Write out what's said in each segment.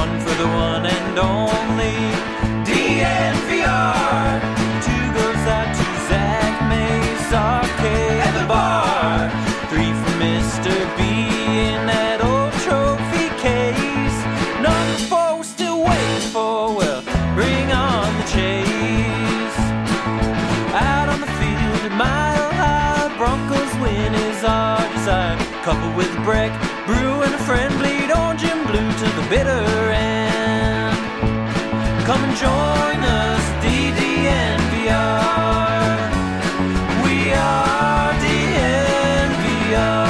one for the one and only DNVR. Two goes out to Zach Mace, RK at the bar. Three for Mr. B in that old trophy case. Number four we're still waiting for, well, bring on the chase. Out on the field at Mile High, Broncos win is our desire. Couple with a break, brew and a friend, bleed orange and blue to the bitter end. Come and join us, DNVR. We are DNVR.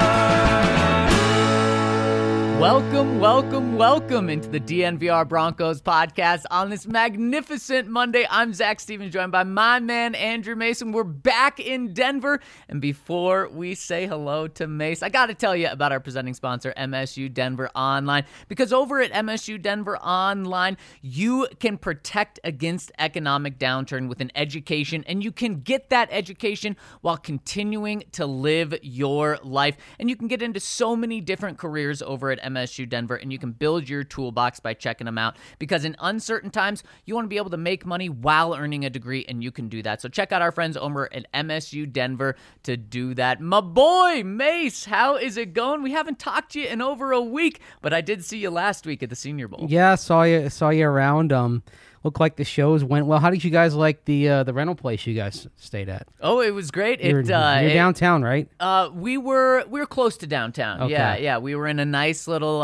Welcome into the DNVR Broncos podcast on this magnificent Monday. I'm Zach Stevens, joined by my man, Andrew Mason. We're back in Denver. And before we say hello to Mace, I got to tell you about our presenting sponsor, MSU Denver Online. Because over at MSU Denver Online, you can protect against economic downturn with an education, and you can get that education while continuing to live your life. And you can get into so many different careers over at MSU Denver, and you can build your toolbox by checking them out, because in uncertain times, you want to be able to make money while earning a degree, and you can do that. So check out our friends over at MSU Denver to do that. My boy, Mace, how is it going? We haven't talked to you in over a week, but I did see you last week at the Senior Bowl. Yeah, saw you around. Looked like the shows went well. How did you guys like the rental place you guys stayed at? Oh, it was great. You're downtown, right? We were close to downtown. Okay. Yeah. We were in a nice little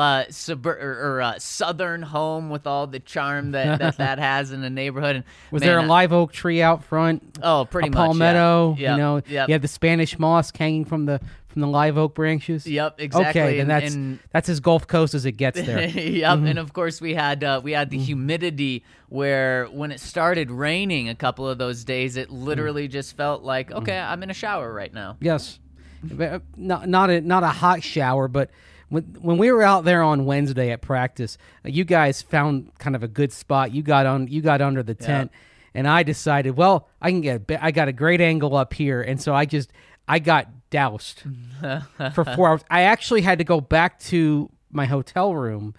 southern home with all the charm that has in the neighborhood. And was there a live oak tree out front? Oh, pretty much. Palmetto. Yeah. You had the Spanish moss hanging from the live oak branches. Yep, exactly. Okay, then that's as Gulf Coast as it gets there. Yep, Mm-hmm. And of course we had the humidity where when it started raining a couple of those days, it literally just felt like, okay, I'm in a shower right now. Yes, not a hot shower, but when we were out there on Wednesday at practice, you guys found kind of a good spot. You got under the tent, and I decided, well, I got a great angle up here, and so I got doused for 4 hours. I actually had to go back to my hotel room,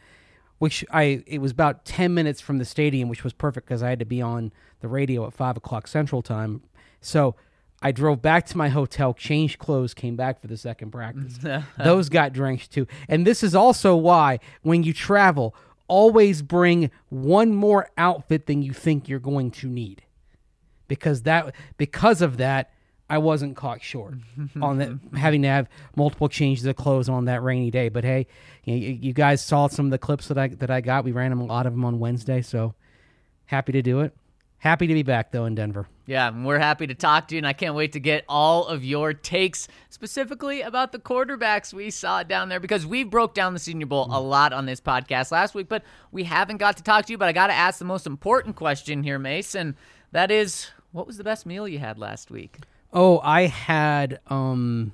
it was about 10 minutes from the stadium, which was perfect because I had to be on the radio at 5 o'clock Central Time. So I drove back to my hotel, changed clothes, came back for the second practice. Those got drenched too. And this is also why, when you travel, always bring one more outfit than you think you're going to need. Because of that, I wasn't caught short on that, having to have multiple changes of clothes on that rainy day. But hey, you guys saw some of the clips that I got. We ran a lot of them on Wednesday, so happy to do it. Happy to be back, though, in Denver. Yeah, and we're happy to talk to you, and I can't wait to get all of your takes, specifically about the quarterbacks we saw down there, because we broke down the Senior Bowl a lot on this podcast last week, but we haven't got to talk to you. But I got to ask the most important question here, Mason. That is, what was the best meal you had last week? Oh, I had, well,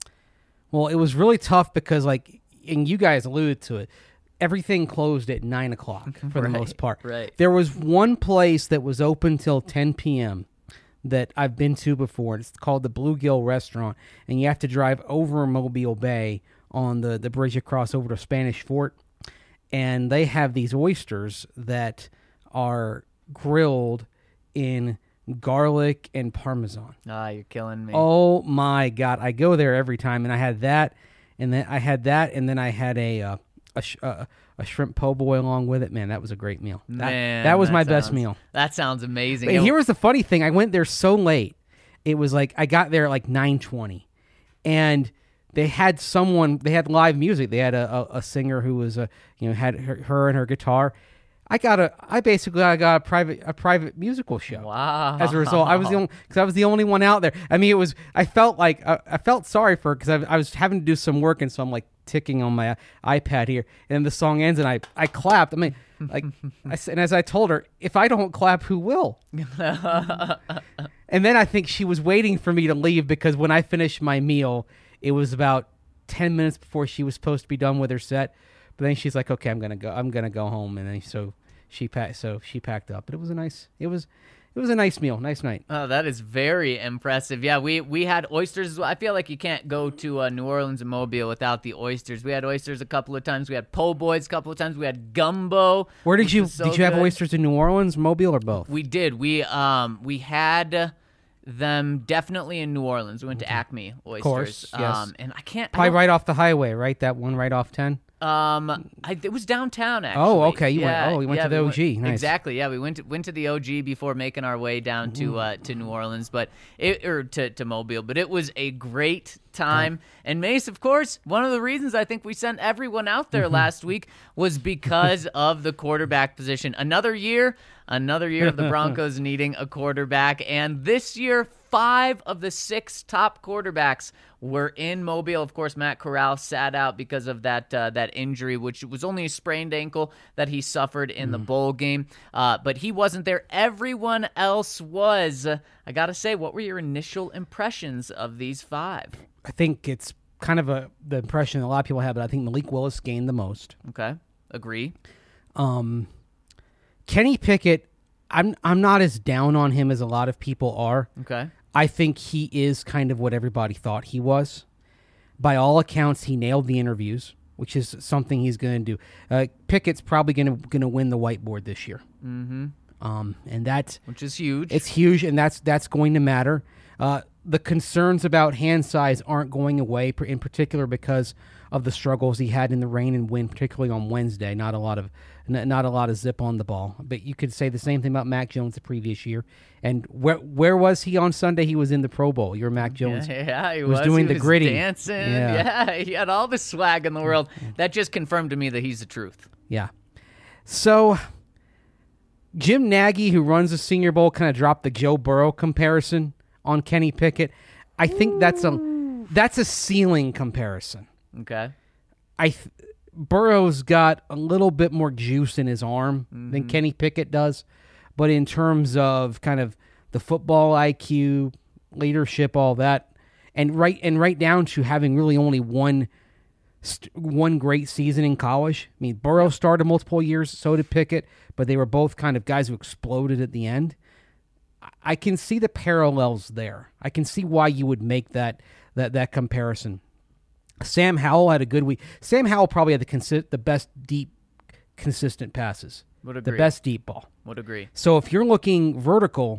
it was really tough because, and you guys alluded to it, everything closed at 9 o'clock for the most part. Right. There was one place that was open till 10 p.m. that I've been to before. It's called the Bluegill Restaurant, and you have to drive over Mobile Bay on the bridge across over to Spanish Fort, and they have these oysters that are grilled in garlic and Parmesan. Ah, you're killing me. Oh my God. I go there every time, and I had that, and then I had a shrimp po' boy along with it. Man, that was a great meal. That was my best meal. That sounds amazing. But here was the funny thing. I went there so late. It was like I got there at 9:20, and they had live music. They had a singer who was had her and her guitar. I got a private musical show. Wow! As a result, I was the only one out there. I mean, I felt sorry for her because I was having to do some work, and so I'm ticking on my iPad here, and then the song ends, and I clapped. I mean, and as I told her, if I don't clap, who will? And then I think she was waiting for me to leave because when I finished my meal, it was about 10 minutes before she was supposed to be done with her set. But then she's like, "Okay, I'm gonna go home," and then so she packed up. But it was it was a nice meal, nice night. Oh, that is very impressive. Yeah, we had oysters as well. I feel like you can't go to New Orleans and Mobile without the oysters. We had oysters a couple of times. We had po' boys a couple of times. We had gumbo. Where did which you was so did you have good. oysters in New Orleans, Mobile, or both? We did. We had them definitely in New Orleans. We went to Acme Oysters. course, yes. And I can't. I Probably don't- right off the highway, right? That one right off 10. it was downtown actually. Oh, okay. You Yeah, went to the we OG. Nice. Exactly. Yeah, we went to the OG before making our way down to New Orleans, to Mobile. But it was a great time. And Mace, of course, one of the reasons I think we sent everyone out there last week was because of the quarterback position. Another year of the Broncos needing a quarterback, and this year 5 of the 6 top quarterbacks were in Mobile. Of course, Matt Corral sat out because of that injury, which was only a sprained ankle that he suffered in the bowl game. But he wasn't there. Everyone else was. I got to say, what were your initial impressions of these 5? I think it's kind of the impression that a lot of people have, but I think Malik Willis gained the most. Okay, agree. Kenny Pickett, I'm not as down on him as a lot of people are. Okay. I think he is kind of what everybody thought he was. By all accounts, he nailed the interviews, which is something he's going to do. Pickett's probably going to win the whiteboard this year. Mm-hmm. And that's Which is huge. It's huge, and that's going to matter. The concerns about hand size aren't going away, in particular because of the struggles he had in the rain and wind, particularly on Wednesday. Not a lot of zip on the ball. But you could say the same thing about Mac Jones the previous year. And where was he on Sunday? He was in the Pro Bowl. Your Mac Jones he was doing He the gritty, dancing. Yeah. Yeah, he had all the swag in the world. That just confirmed to me that he's the truth. Yeah. So Jim Nagy, who runs the Senior Bowl, kind of dropped the Joe Burrow comparison on Kenny Pickett. I think that's a ceiling comparison. Okay. Burrow's got a little bit more juice in his arm than Kenny Pickett does, but in terms of kind of the football IQ, leadership, all that, and right down to having really only one great season in college. I mean, Burrow started multiple years, so did Pickett, but they were both kind of guys who exploded at the end. I can see the parallels there. I can see why you would make that comparison. Sam Howell had a good week. Sam Howell probably had the best deep, consistent passes. Would agree. The best deep ball. Would agree. So if you're looking vertical,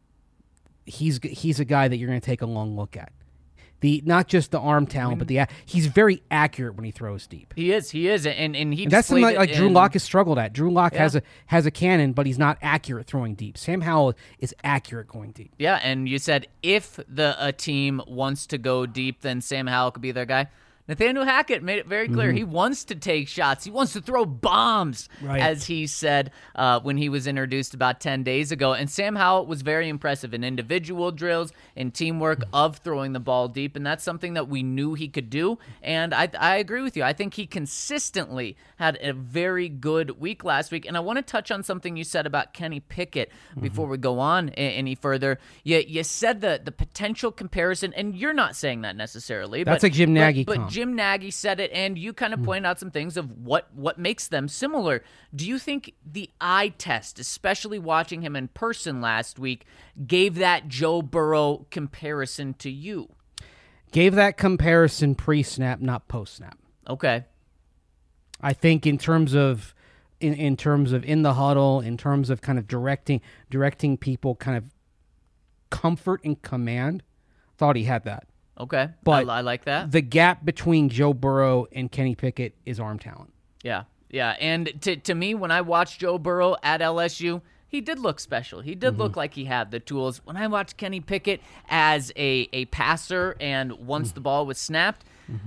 he's a guy that you're going to take a long look at. Not just the arm talent, but he's very accurate when he throws deep. He is, and he And that's something displayed like it Drew in- Lock has struggled at. Drew Lock Yeah. has a cannon, but he's not accurate throwing deep. Sam Howell is accurate going deep. Yeah, and you said if a team wants to go deep, then Sam Howell could be their guy. Nathaniel Hackett made it very clear. He wants to take shots. He wants to throw bombs, Right. as he said when he was introduced about 10 days ago. And Sam Howell was very impressive in individual drills and teamwork of throwing the ball deep, and that's something that we knew he could do. And I agree with you. I think he consistently had a very good week last week. And I want to touch on something you said about Kenny Pickett before we go on any further. You said the potential comparison, and you're not saying that necessarily. That's a Jim Nagy But comp. Jim Nagy said it, and you kind of pointed out some things of what makes them similar. Do you think the eye test, especially watching him in person last week, gave that Joe Burrow comparison to you? Gave that comparison pre-snap, not post-snap. Okay. I think in terms of in the huddle, in terms of kind of directing people, kind of comfort and command, thought he had that. Okay. But I like that. The gap between Joe Burrow and Kenny Pickett is arm talent. Yeah. Yeah. And to me, when I watched Joe Burrow at LSU, he did look special. He did look like he had the tools. When I watched Kenny Pickett as a passer and once the ball was snapped,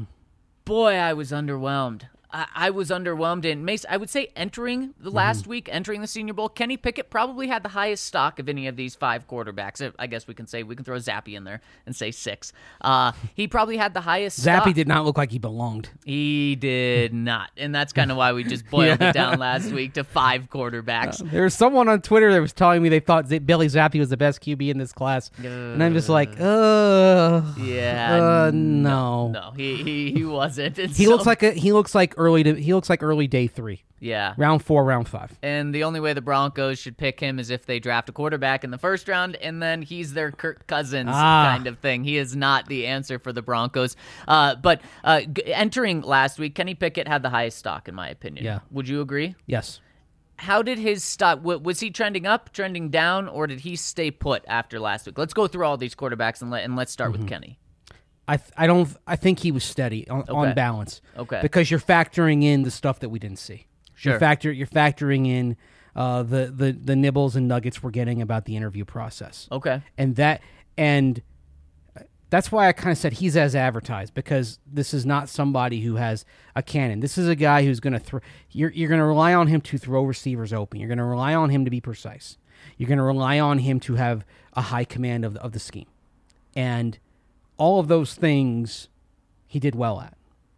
boy, I was underwhelmed. I was underwhelmed. And Mace, I would say entering the last week, entering the Senior Bowl, Kenny Pickett probably had the highest stock of any of these 5 quarterbacks. I guess we can throw Zappy in there and say 6. He probably had the highest stock. Zappy did not look like he belonged. He did not. And that's kind of why we just boiled it down last week to 5 quarterbacks. There was someone on Twitter that was telling me they thought Billy Zappi was the best QB in this class, and I'm just like, Yeah. no. No, he wasn't. And He so- looks like early day 3. Yeah. Round 4, round 5. And the only way the Broncos should pick him is if they draft a quarterback in the first round, and then he's their Kirk Cousins kind of thing. He is not the answer for the Broncos. But entering last week, Kenny Pickett had the highest stock, in my opinion. Yeah. Would you agree? Yes. How did his stock, was he trending up, trending down, or did he stay put after last week? Let's go through all these quarterbacks and let's start with Kenny. I think he was steady on balance. Okay. Because you're factoring in the stuff that we didn't see. Sure. You're factoring in the nibbles and nuggets we're getting about the interview process. Okay. And that's why I kind of said he's as advertised, because this is not somebody who has a cannon. This is a guy who's going to throw. You're going to rely on him to throw receivers open. You're going to rely on him to be precise. You're going to rely on him to have a high command of the scheme, and all of those things he did well at.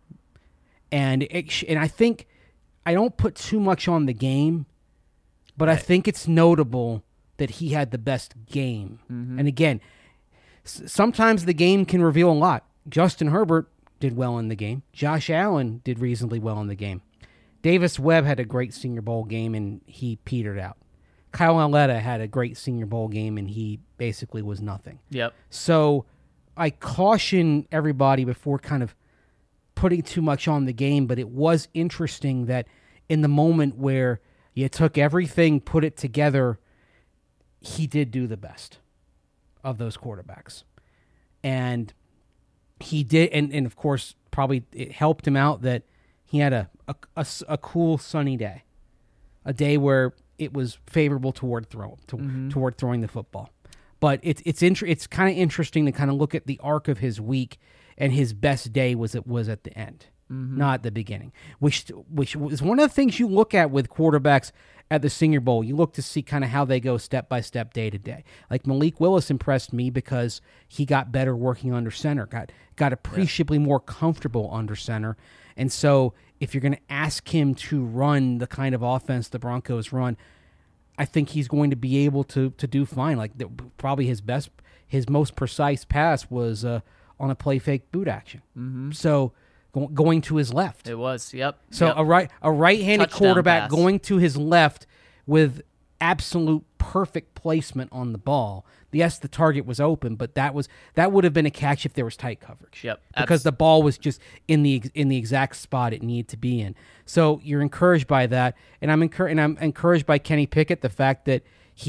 And I think I don't put too much on the game, but I think it's notable that he had the best game. Mm-hmm. And again, sometimes the game can reveal a lot. Justin Herbert did well in the game. Josh Allen did reasonably well in the game. Davis Webb had a great Senior Bowl game, and he petered out. Kyle Aletta had a great Senior Bowl game, and he basically was nothing. Yep. So I caution everybody before kind of putting too much on the game, but it was interesting that in the moment where you took everything, put it together, he did do the best of those quarterbacks. And he did, and of course, probably it helped him out that he had a cool sunny day, a day where it was favorable toward throwing the football. But it's kind of interesting to kind of look at the arc of his week, and his best day was at the end, not at the beginning, which is one of the things you look at with quarterbacks at the Senior Bowl. You look to see kind of how they go step by step, day to day. Like Malik Willis impressed me because he got better working under center, got appreciably more comfortable under center. And so if you're going to ask him to run the kind of offense the Broncos run, I think he's going to be able to do fine. Like probably his most precise pass was on a play fake boot action. Mm-hmm. So going to his left. It was, yep. So yep. a right-handed Touchdown quarterback pass. going to his left with absolute perfect placement on the ball. Yes, the target was open, but that would have been a catch if there was tight coverage. Yep. Because the ball was just in the exact spot it needed to be in. So you're encouraged by that, and I'm encouraged by Kenny Pickett, the fact that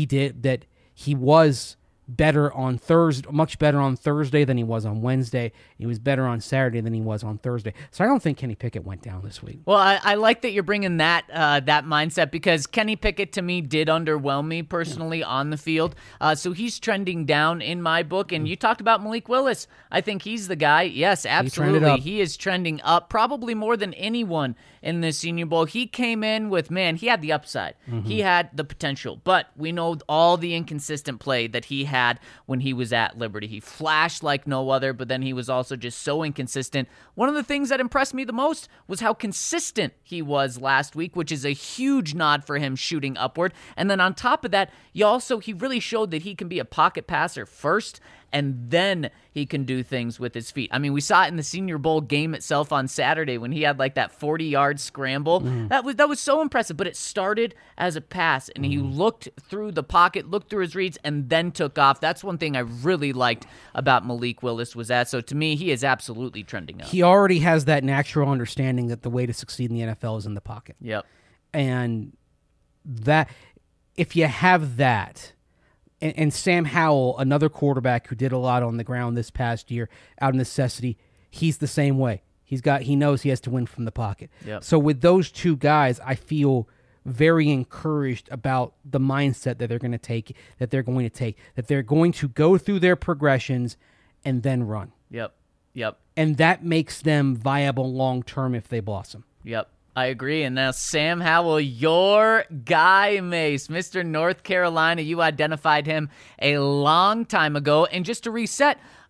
he was better on Thursday, much better on Thursday than he was on Wednesday. He was better on Saturday than he was on Thursday. So I don't think Kenny Pickett went down this week. Well, I like that you're bringing that mindset, because Kenny Pickett to me did underwhelm me personally on the field. So he's trending down in my book. And you talked about Malik Willis. I think he's the guy. Yes, absolutely. He is trending up probably more than anyone in the Senior Bowl. He came in with, he had the upside. Mm-hmm. He had the potential. But we know all the inconsistent play that he had when he was at Liberty. He flashed like no other, but then he was also just so inconsistent. One of the things that impressed me the most was how consistent he was last week, which is a huge nod for him shooting upward. And then on top of that, he really showed that he can be a pocket passer first, and then he can do things with his feet. I mean, we saw it in the Senior Bowl game itself on Saturday when he had like that 40-yard scramble. That was so impressive, but it started as a pass, and he looked through the pocket, looked through his reads, and then took off. That's one thing I really liked about Malik Willis was that. So to me, he is absolutely trending up. He already has that natural understanding that the way to succeed in the NFL is in the pocket. Yep. And that, if you have that, and Sam Howell, another quarterback who did a lot on the ground this past year, out of necessity, he's the same way. He knows he has to win from the pocket. Yep. So with those two guys, I feel very encouraged about the mindset that they're going to take, that they're going to go through their progressions and then run. Yep. And that makes them viable long term if they blossom. Yep. I agree. And now Sam Howell, your guy, Mace, Mr. North Carolina, you identified him a long time ago. And just to reset,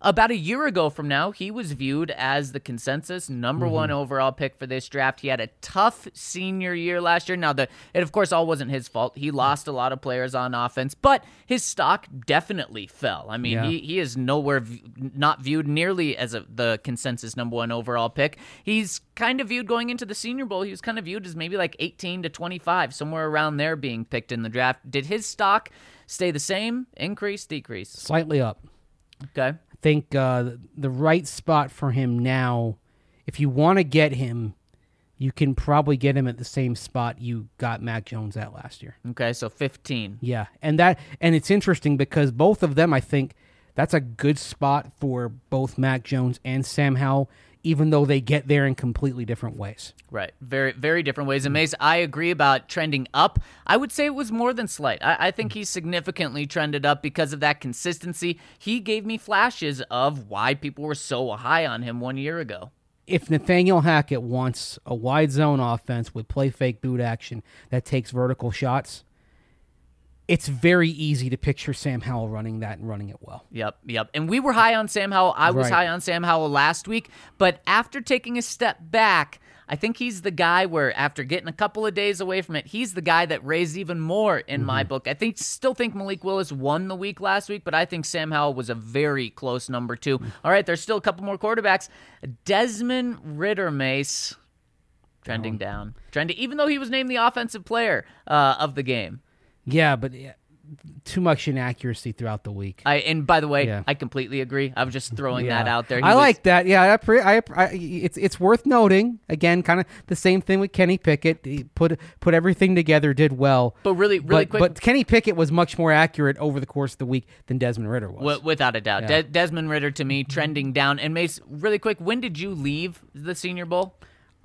About a year ago from now, he was viewed as the consensus number one overall pick for this draft. He had a tough senior year last year. Now, it of course all wasn't his fault. He lost a lot of players on offense, but his stock definitely fell. I mean, he is nowhere not viewed nearly as the consensus number one overall pick. He's kind of viewed going into the Senior Bowl. He was kind of viewed as maybe like 18 to 25, somewhere around there being picked in the draft. Did his stock stay the same, increase, decrease? Slightly up. Okay. I think the right spot for him now, if you want to get him, you can probably get him at the same spot you got Mac Jones at last year. Okay, so 15. Yeah, and it's interesting because both of them, I think, that's a good spot for both Mac Jones and Sam Howell, even though they get there in completely different ways. Right. Very, very different ways. And Mace, I agree about trending up. I would say it was more than slight. I think he significantly trended up because of that consistency. He gave me flashes of why people were so high on him 1 year ago. If Nathaniel Hackett wants a wide zone offense with play fake boot action that takes vertical shots, it's very easy to picture Sam Howell running that and running it well. Yep. And we were high on Sam Howell. I was high on Sam Howell last week. But after taking a step back, I think he's the guy where after getting a couple of days away from it, he's the guy that raised even more in my book. I still think Malik Willis won the week last week, but I think Sam Howell was a very close number 2. All right, there's still a couple more quarterbacks. Desmond Ridder, Mace, trending down. Even though he was named the offensive player of the game. Yeah, but too much inaccuracy throughout the week. And by the way, I completely agree. I was just throwing that out there. Like that. Yeah, it's worth noting. Again, kind of the same thing with Kenny Pickett. He put everything together, did well. But really quick. But Kenny Pickett was much more accurate over the course of the week than Desmond Ridder was. Without a doubt. Yeah. Desmond Ridder, to me, trending down. And Mace, really quick, when did you leave the Senior Bowl?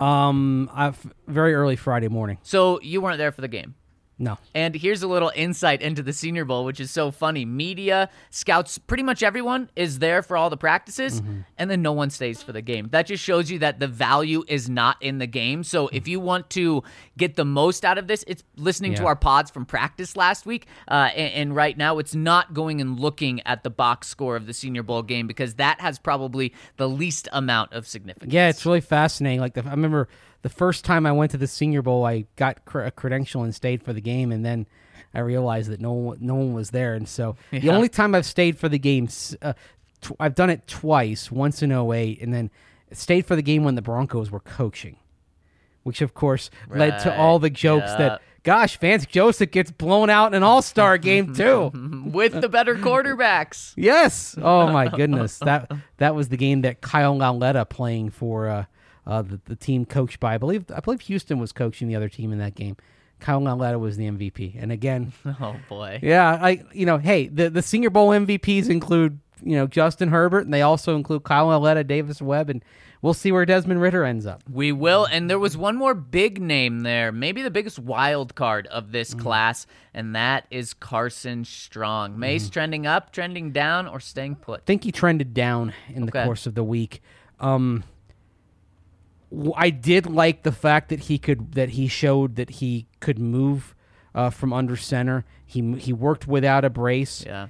Very early Friday morning. So you weren't there for the game? No. And here's a little insight into the Senior Bowl, which is so funny. Media, scouts, pretty much everyone is there for all the practices, and then no one stays for the game. That just shows you that the value is not in the game. So if you want to get the most out of this, it's listening to our pods from practice last week. And right now, it's not going and looking at the box score of the Senior Bowl game because that has probably the least amount of significance. Yeah, it's really fascinating. I remember the first time I went to the Senior Bowl, I got a credential and stayed for the game, and then I realized that no one was there. And so the only time I've stayed for the game, I've done it twice, once in 2008, and then stayed for the game when the Broncos were coaching, which, of course, led to all the jokes that, gosh, Vance Joseph gets blown out in an all-star game, too. With the better quarterbacks. Yes. Oh, my goodness. That was the game that Kyle Lauletta playing for the team coached by, I believe Houston was coaching the other team in that game. Kyle Lauletta was the MVP. And again, oh boy. Yeah, hey, the Senior Bowl MVPs include, Justin Herbert, and they also include Kyle Lauletta, Davis Webb, and we'll see where Desmond Ridder ends up. We will, and there was one more big name there, maybe the biggest wild card of this class, and that is Carson Strong. Mace trending up, trending down, or staying put? I think he trended down in the course of the week. I did like the fact that he showed that he could move from under center. He worked without a brace. Yeah.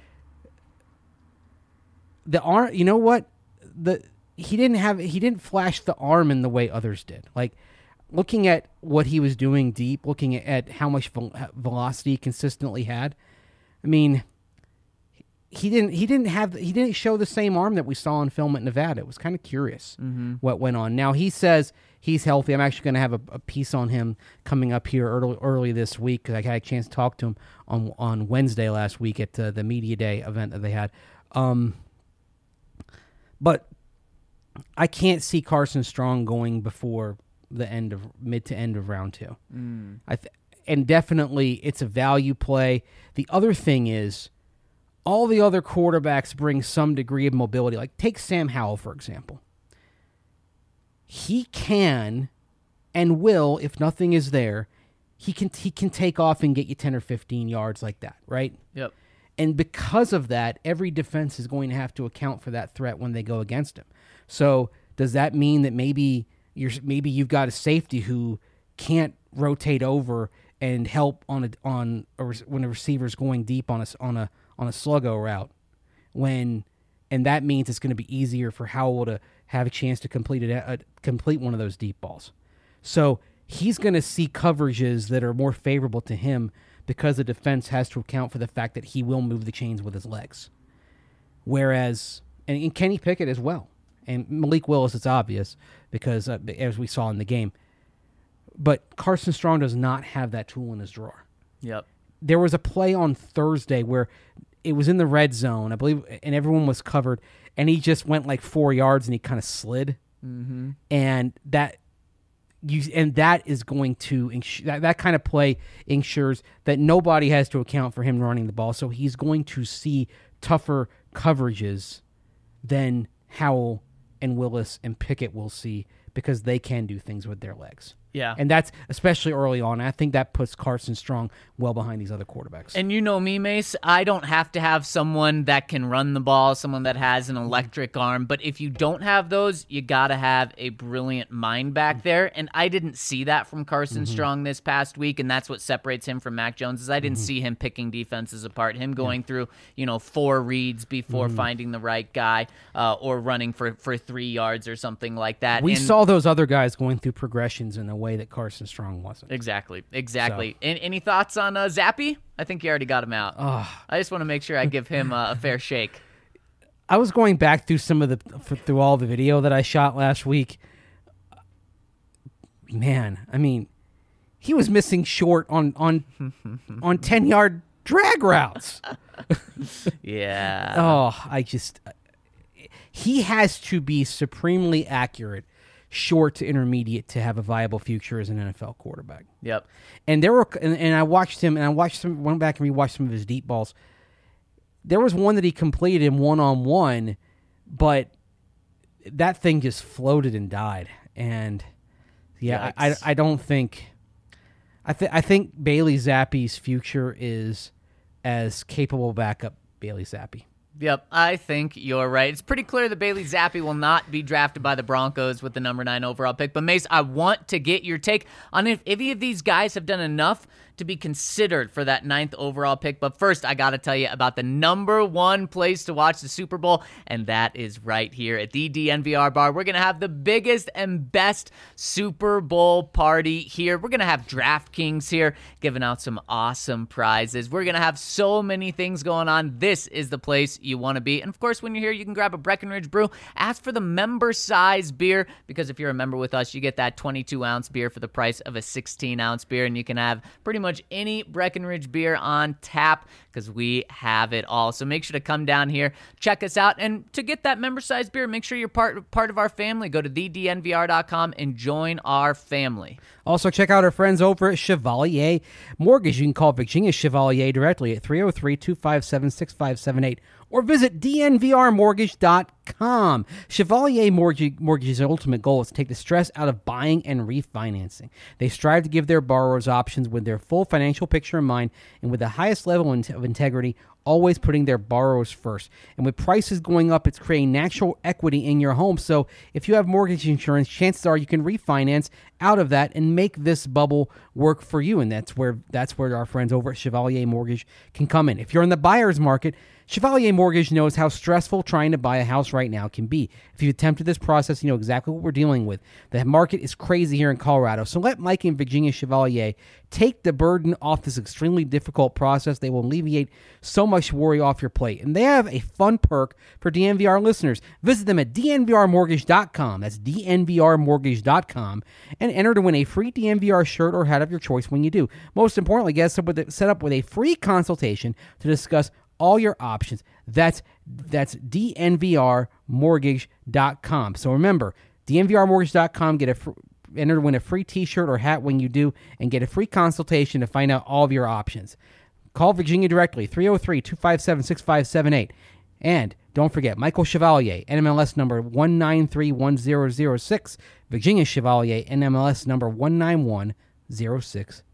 The arm, you know what? He didn't flash the arm in the way others did. Like looking at what he was doing deep, looking at how much velocity he consistently had. I mean, he didn't show the same arm that we saw on film at Nevada. It was kind of curious what went on. Now he says he's healthy. I'm actually going to have a piece on him coming up here early this week because I had a chance to talk to him on Wednesday last week at the Media Day event that they had. But I can't see Carson Strong going before the mid to end of round 2. And definitely it's a value play. The other thing is, all the other quarterbacks bring some degree of mobility. Like, take Sam Howell, for example. He can and will, if nothing is there, he can take off and get you 10 or 15 yards like that, right? Yep. And because of that, every defense is going to have to account for that threat when they go against him. So does that mean that maybe you've got a safety who can't rotate over and help when a receiver's going deep on a sluggo route, and that means it's going to be easier for Howell to have a chance to complete one of those deep balls. So he's going to see coverages that are more favorable to him because the defense has to account for the fact that he will move the chains with his legs. Whereas, and Kenny Pickett as well, and Malik Willis, it's obvious because as we saw in the game. But Carson Strong does not have that tool in his drawer. Yep. There was a play on Thursday where it was in the red zone, I believe, and everyone was covered, and he just went like 4 yards and he kind of slid. Mm-hmm. And that is going to that kind of play ensures that nobody has to account for him running the ball. So he's going to see tougher coverages than Howell and Willis and Pickett will see because they can do things with their legs. Yeah. And that's especially early on. I think that puts Carson Strong well behind these other quarterbacks. And you know me, Mace, I don't have to have someone that can run the ball, someone that has an electric arm. But if you don't have those, you got to have a brilliant mind back there. And I didn't see that from Carson Strong this past week. And that's what separates him from Mac Jones is I didn't see him picking defenses apart, him going through, 4 reads before finding the right guy or running for 3 yards or something like that. We saw those other guys going through progressions in a way that Carson Strong wasn't. Exactly. So. Any thoughts on Zappy? I think you already got him out. I just want to make sure I give him a fair shake. I was going back through through all the video that I shot last week. Man, I mean, he was missing short on 10-yard drag routes. Yeah. He has to be supremely accurate, short to intermediate, to have a viable future as an NFL quarterback. Yep. And I watched him, went back and rewatched some of his deep balls. There was one that he completed in one-on-one, but that thing just floated and died. And I don't think. I think Bailey Zappe's future is as capable backup Bailey Zappi. Yep, I think you're right. It's pretty clear that Bailey Zappi will not be drafted by the Broncos with the number 9 overall pick. But, Mace, I want to get your take on if any of these guys have done enough to be considered for that 9th overall pick. But first, I got to tell you about the number 1 place to watch the Super Bowl, and that is right here at the DNVR Bar. We're going to have the biggest and best Super Bowl party here. We're going to have DraftKings here giving out some awesome prizes. We're going to have so many things going on. This is the place you want to be. And, of course, when you're here, you can grab a Breckenridge brew. Ask for the member-size beer because if you're a member with us, you get that 22-ounce beer for the price of a 16-ounce beer, and you can have pretty much any Breckenridge beer on tap because we have it all. So make sure to come down here, check us out, and to get that member-sized beer, make sure you're part of our family. Go to thednvr.com and join our family. Also, check out our friends over at Chevalier Mortgage. You can call Virginia Chevalier directly at 303-257-6578 or visit dnvrmortgage.com. Chevalier Mortgage's ultimate goal is to take the stress out of buying and refinancing. They strive to give their borrowers options with their full financial picture in mind and with the highest level of integrity, always putting their borrowers first. And with prices going up, it's creating natural equity in your home. So if you have mortgage insurance, chances are you can refinance out of that and make this bubble work for you. And that's where our friends over at Chevalier Mortgage can come in. If you're in the buyer's market, Chevalier Mortgage knows how stressful trying to buy a house right now can be. If you've attempted this process, you know exactly what we're dealing with. The market is crazy here in Colorado. So let Mike and Virginia Chevalier take the burden off this extremely difficult process. They will alleviate so much worry off your plate. And they have a fun perk for DNVR listeners. Visit them at dnvrmortgage.com. That's dnvrmortgage.com. And enter to win a free DNVR shirt or hat of your choice when you do. Most importantly, get set up with a free consultation to discuss all your options. That's dnvrmortgage.com. So remember, dnvrmortgage.com, enter to win a free t-shirt or hat when you do, and get a free consultation to find out all of your options. Call Virginia directly, 303-257-6578. And don't forget, Michael Chevalier, NMLS number 1931006. Virginia Chevalier, NMLS number 19106.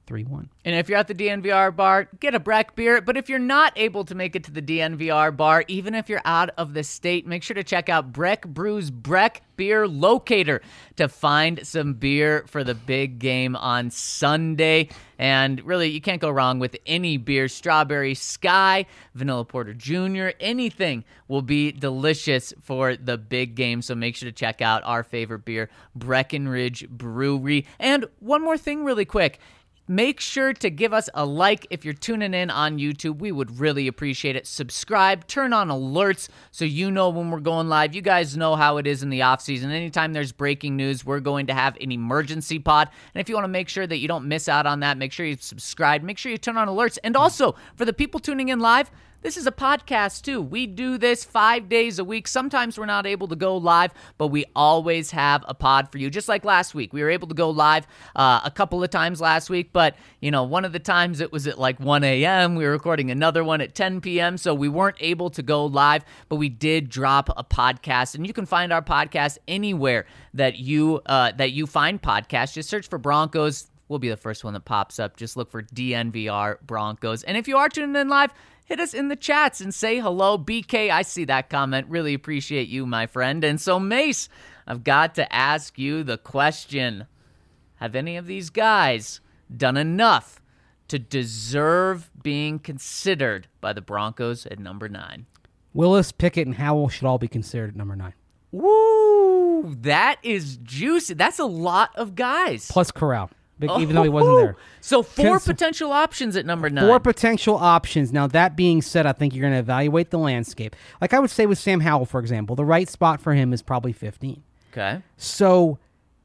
3-1. And if you're at the DNVR bar, get a Breck beer. But if you're not able to make it to the DNVR bar, even if you're out of the state, make sure to check out Breck Brews Breck Beer Locator to find some beer for the big game on Sunday. And really, you can't go wrong with any beer. Strawberry Sky, Vanilla Porter Jr., anything will be delicious for the big game. So make sure to check out our favorite beer, Breckenridge Brewery. And one more thing really quick. Make sure to give us a like if you're tuning in on YouTube. We would really appreciate it. Subscribe, turn on alerts so you know when we're going live. You guys know how it is in the off season. Anytime there's breaking news, we're going to have an emergency pod. And if you want to make sure that you don't miss out on that, make sure you subscribe. Make sure you turn on alerts. And also, for the people tuning in live, this is a podcast, too. We do this 5 days a week. Sometimes we're not able to go live, but we always have a pod for you. Just like last week. We were able to go live a couple of times last week, but, one of the times it was at like 1 a.m. We were recording another one at 10 p.m., so we weren't able to go live, but we did drop a podcast, and you can find our podcast anywhere that you find podcasts. Just search for Broncos. We'll be the first one that pops up. Just look for DNVR Broncos. And if you are tuning in live, hit us in the chats and say hello. BK, I see that comment. Really appreciate you, my friend. And so, Mace, I've got to ask you the question. Have any of these guys done enough to deserve being considered by the Broncos at number 9? Willis, Pickett, and Howell should all be considered at number 9. Woo! That is juicy. That's a lot of guys. Plus Corral. Even though he wasn't there. So 4 potential options at number 9. 4 potential options. Now, that being said, I think you're going to evaluate the landscape. Like I would say with Sam Howell, for example, the right spot for him is probably 15. Okay. So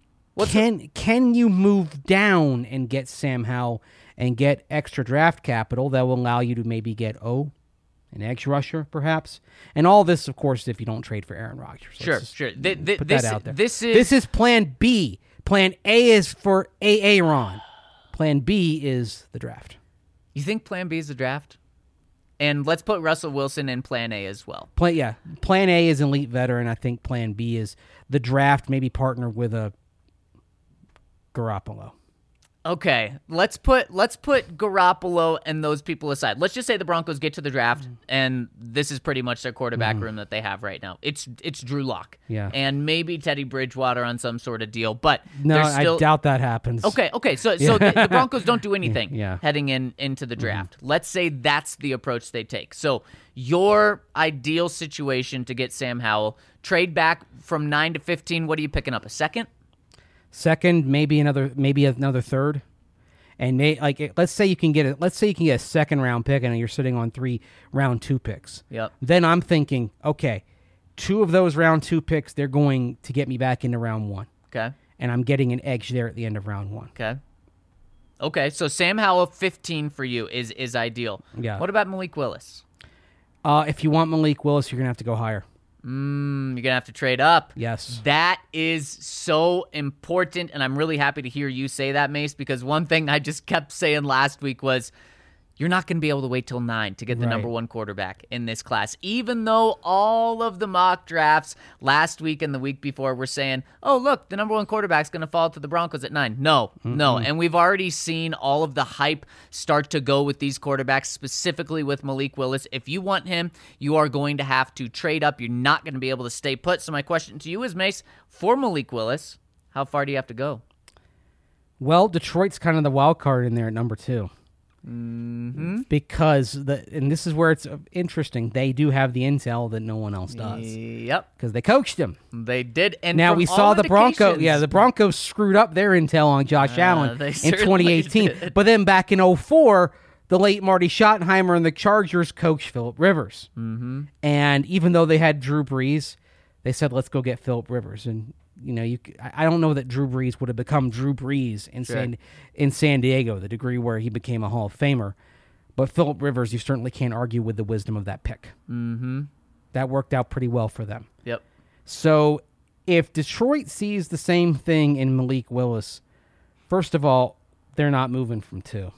can you move down and get Sam Howell and get extra draft capital that will allow you to maybe get an edge rusher, perhaps? And all this, of course, if you don't trade for Aaron Rodgers. Sure. Put that out there. This is plan B. Plan A is for Aaron. Plan B is the draft. You think Plan B is the draft? And let's put Russell Wilson in Plan A as well. Plan A is elite veteran. I think Plan B is the draft, maybe partner with a Garoppolo. Okay, let's put Garoppolo and those people aside. Let's just say the Broncos get to the draft, and this is pretty much their quarterback room that they have right now. It's Drew Lock, and maybe Teddy Bridgewater on some sort of deal. But no, I doubt that happens. Okay. So the Broncos don't do anything heading into the draft. Let's say that's the approach they take. So your ideal situation to get Sam Howell, trade back from 9 to 15. What are you picking up? A second? Second, maybe another third, and let's say you can get a second round pick, and you're sitting on 3 round 2 picks. Yep. Then I'm thinking, okay, 2 of those round 2 picks, they're going to get me back into round 1. Okay. And I'm getting an edge there at the end of round 1. Okay. So Sam Howell 15 for you is ideal. Yeah. What about Malik Willis? If you want Malik Willis, you're gonna have to go higher. You're going to have to trade up. Yes. That is so important, and I'm really happy to hear you say that, Mace, because one thing I just kept saying last week was you're not going to be able to wait till 9 to get the number 1 quarterback in this class, even though all of the mock drafts last week and the week before were saying, oh, look, the number 1 quarterback's going to fall to the Broncos at 9. No. And we've already seen all of the hype start to go with these quarterbacks, specifically with Malik Willis. If you want him, you are going to have to trade up. You're not going to be able to stay put. So my question to you is, Mace, for Malik Willis, how far do you have to go? Well, Detroit's kind of the wild card in there at number 2. Because and this is where it's interesting. They do have the intel that no one else does. Yep, because they coached him. They did. And now we saw the Broncos. Yeah, the Broncos screwed up their intel on Josh Allen in 2018. Did. But then back in 2004, the late Marty Schottenheimer and the Chargers coached Phillip Rivers. And even though they had Drew Brees, they said, "Let's go get Phillip Rivers." And I don't know that Drew Brees would have become Drew Brees in San Diego, the degree where he became a Hall of Famer. But Phillip Rivers, you certainly can't argue with the wisdom of that pick. That worked out pretty well for them. Yep. So if Detroit sees the same thing in Malik Willis, first of all, they're not moving from 2.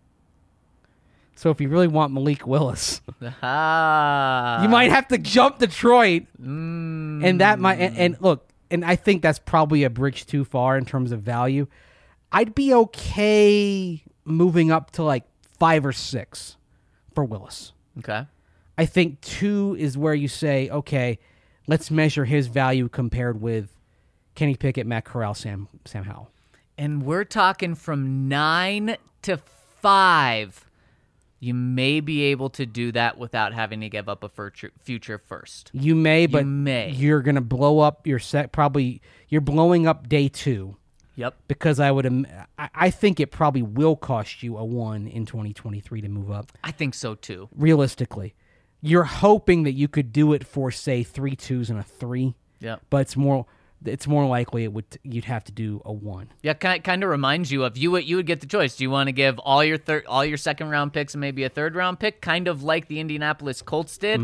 So if you really want Malik Willis, you might have to jump Detroit. And that might and look. And I think that's probably a bridge too far in terms of value. I'd be okay moving up to like 5 or 6 for Willis. Okay. I think 2 is where you say, okay, let's measure his value compared with Kenny Pickett, Matt Corral, Sam Howell. And we're talking from 9 to 5. You may be able to do that without having to give up a future first. You may, but may. You're going to blow up your set. Probably you're blowing up day 2. Yep. Because I think it probably will cost you a 1 in 2023 to move up. I think so too. Realistically, you're hoping that you could do it for say 3 2s and a 3. Yep. But it's more likely you'd have to do a 1. Yeah, kind of reminds you of you would get the choice. Do you want to give all your second round picks and maybe a third round pick, kind of like the Indianapolis Colts did?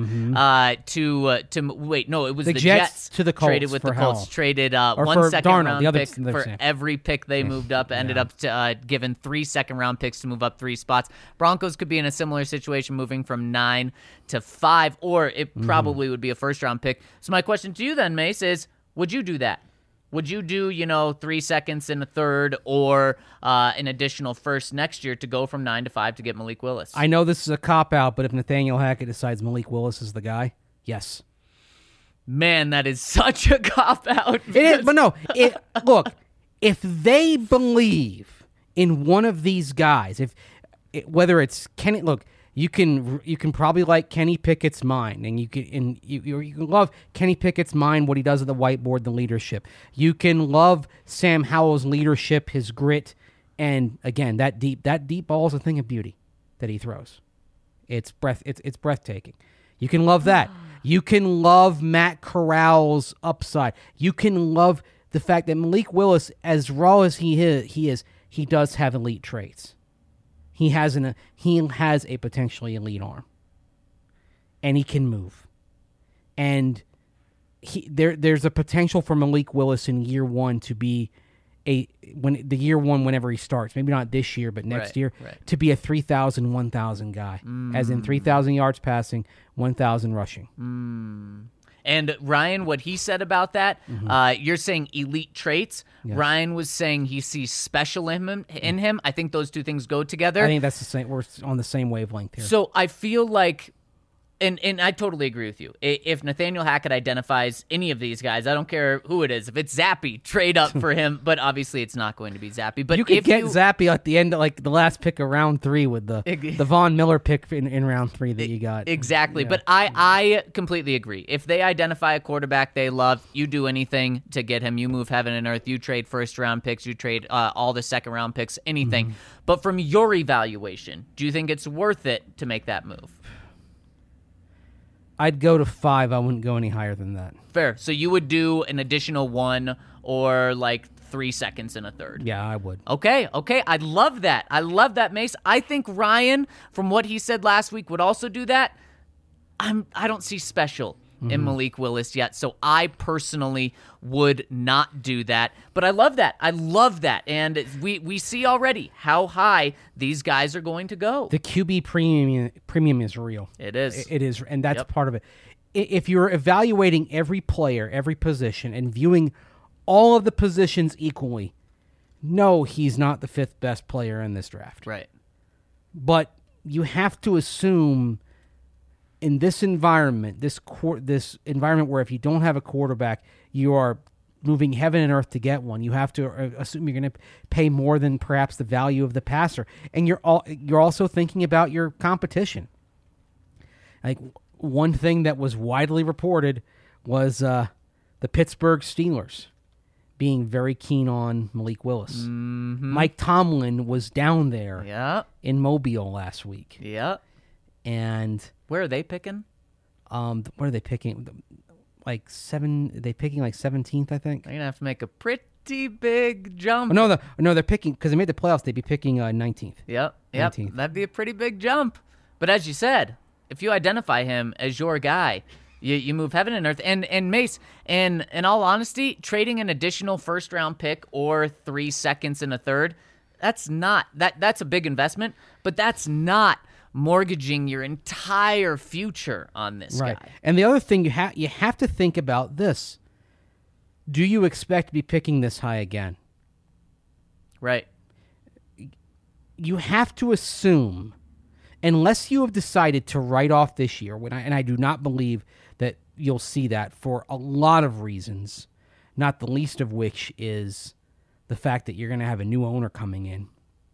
Wait, no, it was the Jets to the Colts traded with the Colts, Howell. traded Or one for second Darnold, round the other pick for same. every pick they moved up. Ended up given 3 second round picks to move up 3 spots. Broncos could be in a similar situation, moving from 9 to 5, or it probably would be a first round pick. So my question to you then, Mace, is: would you do that? Would you do, 3 seconds and a third or an additional first next year to go from 9 to 5 to get Malik Willis? I know this is a cop-out, but if Nathaniel Hackett decides Malik Willis is the guy, yes. Man, that is such a cop-out. It is, but no. Look, if they believe in one of these guys, whether it's Kenny, look, you can probably like Kenny Pickett's mind, and you can love Kenny Pickett's mind, what he does at the whiteboard, the leadership. You can love Sam Howell's leadership, his grit, and again that deep ball is a thing of beauty that he throws. It's breathtaking. You can love that. You can love Matt Corral's upside. You can love the fact that Malik Willis, as raw as he is, he does have elite traits. He has a potentially elite arm, and he can move. And there's a potential for Malik Willis in year 1 to be whenever he starts, maybe not this year, but next year, to be a 3,000, 1,000 guy, as in 3,000 yards passing, 1,000 rushing. And Ryan, what he said about that, you're saying elite traits. Yes. Ryan was saying he sees special in him. I think those two things go together. I think that's the same. We're on the same wavelength here. So I feel like, and I totally agree with you. If Nathaniel Hackett identifies any of these guys, I don't care who it is. If it's Zappy, trade up for him. But obviously, it's not going to be Zappy. But you could get Zappy at the end, like the last pick of round 3 with the Von Miller pick in round 3 that you got. Exactly. Yeah. But I completely agree. If they identify a quarterback they love, you do anything to get him. You move heaven and earth. You trade first round picks. You trade all the second round picks. Anything. But from your evaluation, do you think it's worth it to make that move? I'd go to 5. I wouldn't go any higher than that. Fair. So you would do an additional 1 or like 3 seconds and a third. Yeah, I would. Okay. I love that. Mace. I think Ryan, from what he said last week, would also do that. I don't see special in Malik Willis yet, so I personally would not do that. But I love that. And we see already how high these guys are going to go. The QB premium is real. It is. It is, and that's part of it. If you're evaluating every player, every position, and viewing all of the positions equally, no, he's not the 5th best player in this draft. Right. But you have to assume in this environment, this environment where if you don't have a quarterback, you are moving heaven and earth to get one. You have to assume you're going to pay more than perhaps the value of the passer, and you're also thinking about your competition. Like one thing that was widely reported was the Pittsburgh Steelers being very keen on Malik Willis. Mike Tomlin was down there in Mobile last week. Yeah. And where are they picking? What are they picking? Like 7? They picking like 17th, I think. They're gonna have to make a pretty big jump. Oh, no, they're picking because they made the playoffs. They'd be picking 19th. Yep. 19th. That'd be a pretty big jump. But as you said, if you identify him as your guy, you move heaven and earth. And Mace, and in all honesty, trading an additional first round pick or 3 seconds and a third, that's a big investment, but that's not mortgaging your entire future on this guy. And the other thing you have to think about this: do you expect to be picking this high again? Right. you have to assume, unless you have decided to write off this year, and I do not believe that you'll see that for a lot of reasons, not the least of which is the fact that you're going to have a new owner coming in.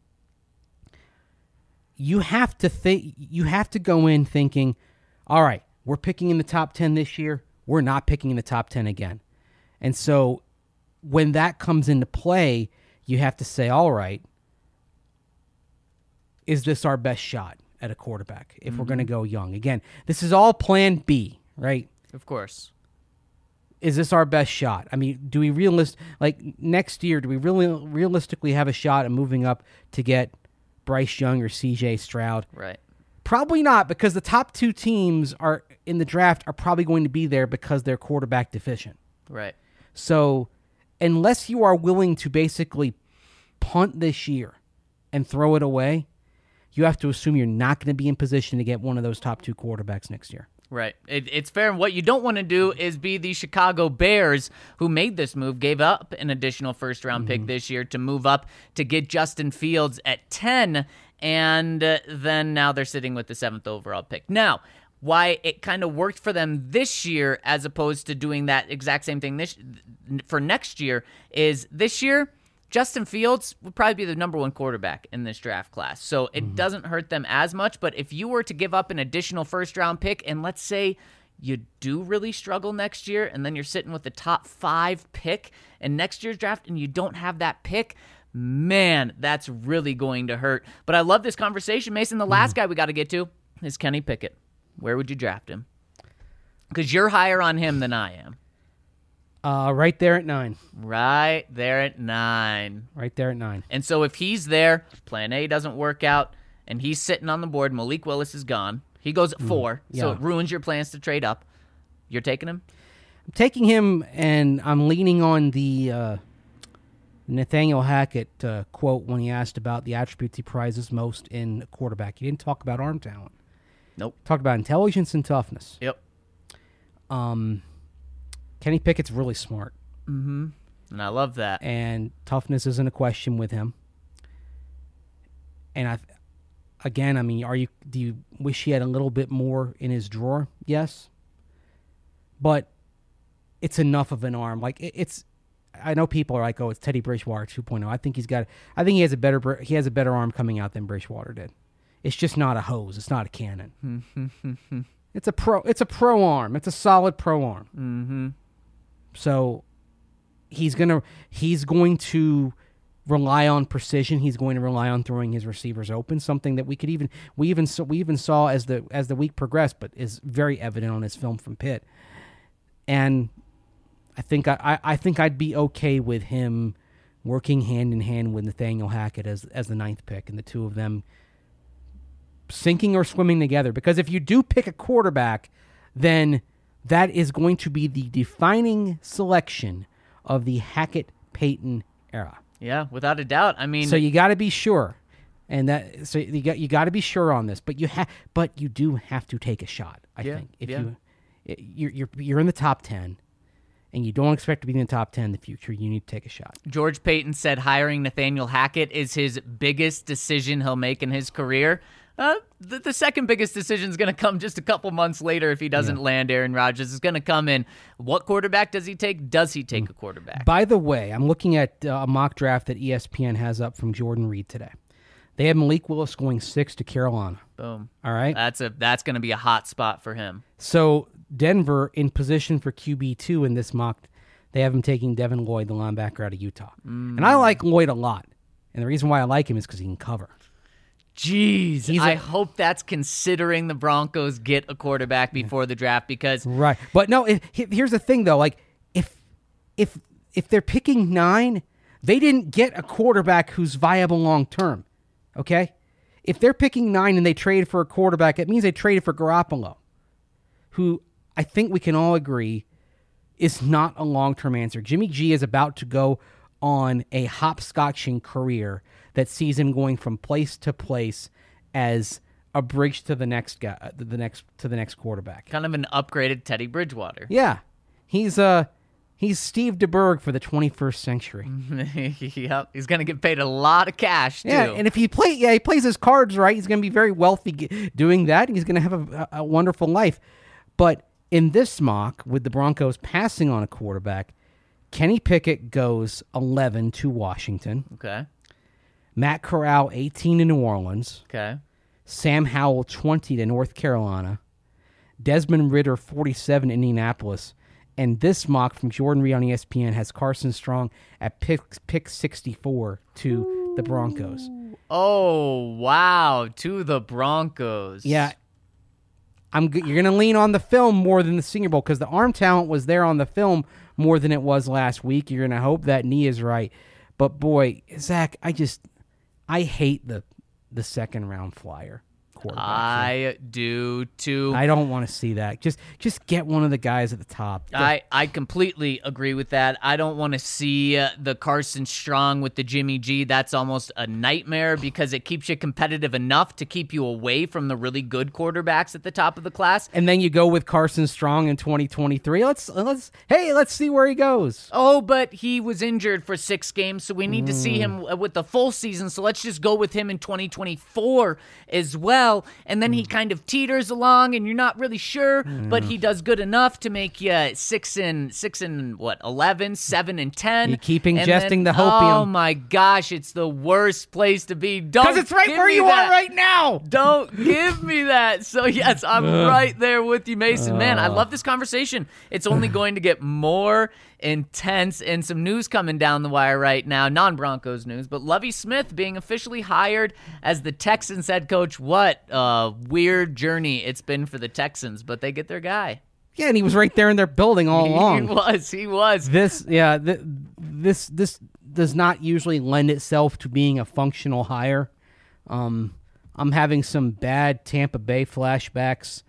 You have to go in thinking, all right, we're picking in the top 10 this year. We're not picking in the top 10 again. And so when that comes into play, you have to say, all right, is this our best shot at a quarterback if we're going to go young? Again, this is all plan B, right? Of course. Is this our best shot? I mean, do we next year, do we really realistically have a shot at moving up to get Bryce Young or CJ Stroud? Right. Probably not, because the top two teams are in the draft are probably going to be there because they're quarterback deficient. Right. So unless you are willing to basically punt this year and throw it away, you have to assume you're not going to be in position to get one of those top two quarterbacks next year. Right. It's fair. And what you don't want to do is be the Chicago Bears, who made this move, gave up an additional first-round pick this year to move up to get Justin Fields at 10, and then now they're sitting with the 7th overall pick. Now, why it kind of worked for them this year as opposed to doing that exact same thing for next year is this year, Justin Fields would probably be the number one quarterback in this draft class. So it doesn't hurt them as much. But if you were to give up an additional first-round pick, and let's say you do really struggle next year, and then you're sitting with the top 5 pick in next year's draft, and you don't have that pick, man, that's really going to hurt. But I love this conversation, Mason. The last guy we got to get to is Kenny Pickett. Where would you draft him? Because you're higher on him than I am. Right there at 9. Right there at 9. Right there at 9. And so if he's there, plan A doesn't work out, and he's sitting on the board, Malik Willis is gone. He goes at 4, so it ruins your plans to trade up. You're taking him? I'm taking him, and I'm leaning on the Nathaniel Hackett quote when he asked about the attributes he prizes most in a quarterback. He didn't talk about arm talent. Nope. Talked about intelligence and toughness. Yep. Kenny Pickett's really smart. Mm-hmm. And I love that. And toughness isn't a question with him. And do you wish he had a little bit more in his drawer? Yes. But it's enough of an arm. I know people are like, "Oh, it's Teddy Bridgewater 2.0." I think he has a better arm coming out than Bridgewater did. It's just not a hose. It's not a cannon. It's a pro arm. It's a solid pro arm. Mm-hmm. So he's going to rely on precision. He's going to rely on throwing his receivers open, something that we even saw as the week progressed, but is very evident on his film from Pitt. And I think I'd be okay with him working hand in hand with Nathaniel Hackett as the 9th pick, and the two of them sinking or swimming together. Because if you do pick a quarterback, then that is going to be the defining selection of the Hackett-Payton era. Yeah, without a doubt. I mean, so you got to be sure, and you got to be sure on this. But you do have to take a shot. I think if you're in the top 10, and you don't expect to be in the top 10 in the future, you need to take a shot. George Payton said hiring Nathaniel Hackett is his biggest decision he'll make in his career. The second biggest decision is going to come just a couple months later if he doesn't land Aaron Rodgers. It's going to come in, what quarterback does he take? Does he take a quarterback? By the way, I'm looking at a mock draft that ESPN has up from Jordan Reed today. They have Malik Willis going 6 to Carolina. Boom. All right? That's going to be a hot spot for him. So Denver in position for QB2 in this mock, they have him taking Devin Lloyd, the linebacker out of Utah. And I like Lloyd a lot. And the reason why I like him is because he can cover. Jeez, I hope that's considering the Broncos get a quarterback before the draft because... Right. But no, here's the thing, though. Like, if they're picking 9, they didn't get a quarterback who's viable long-term, okay? If they're picking 9 and they trade for a quarterback, it means they traded for Garoppolo, who I think we can all agree is not a long-term answer. Jimmy G is about to go on a hopscotching career that sees him going from place to place as a bridge to the next guy, to the next quarterback. Kind of an upgraded Teddy Bridgewater. Yeah, he's He's Steve DeBerg for the 21st century. Yep, he's going to get paid a lot of cash, too. Yeah, and if he plays his cards right, he's going to be very wealthy doing that, and he's going to have a wonderful life. But in this mock, with the Broncos passing on a quarterback, Kenny Pickett goes 11 to Washington. Okay. Matt Corral, 18 to New Orleans. Okay. Sam Howell, 20 to North Carolina. Desmond Ridder, 47 to Indianapolis. And this mock from Jordan Reed on ESPN has Carson Strong at pick 64 to the Broncos. Oh, wow. To the Broncos. Yeah. You're going to lean on the film more than the Senior Bowl because the arm talent was there on the film more than it was last week. You're going to hope that knee is right. But, boy, Zach, I hate the second round flyer quarterback. I do too. I don't want to see that. Just get one of the guys at the top. I completely agree with that. I don't want to see the Carson Strong with the Jimmy G. That's almost a nightmare because it keeps you competitive enough to keep you away from the really good quarterbacks at the top of the class. And then you go with Carson Strong in 2023. Let's see where he goes. Oh, but he was injured for 6 games, so we need to see him with the full season. So let's just go with him in 2024 as well. And then he kind of teeters along, and you're not really sure, but he does good enough to make you 6 and 11, 7 and 10. You keep ingesting then, the hopium. Oh my gosh, it's the worst place to be. Because it's right where you are right now. Don't give me that. So yes, I'm right there with you, Mason. Man, I love this conversation. It's only going to get more intense, and some news coming down the wire right now, non-Broncos news, but Lovie Smith being officially hired as the Texans head coach. What a weird journey it's been for the Texans, but they get their guy. Yeah, and he was right there in their building all along. He was. This does not usually lend itself to being a functional hire. I'm having some bad Tampa Bay flashbacks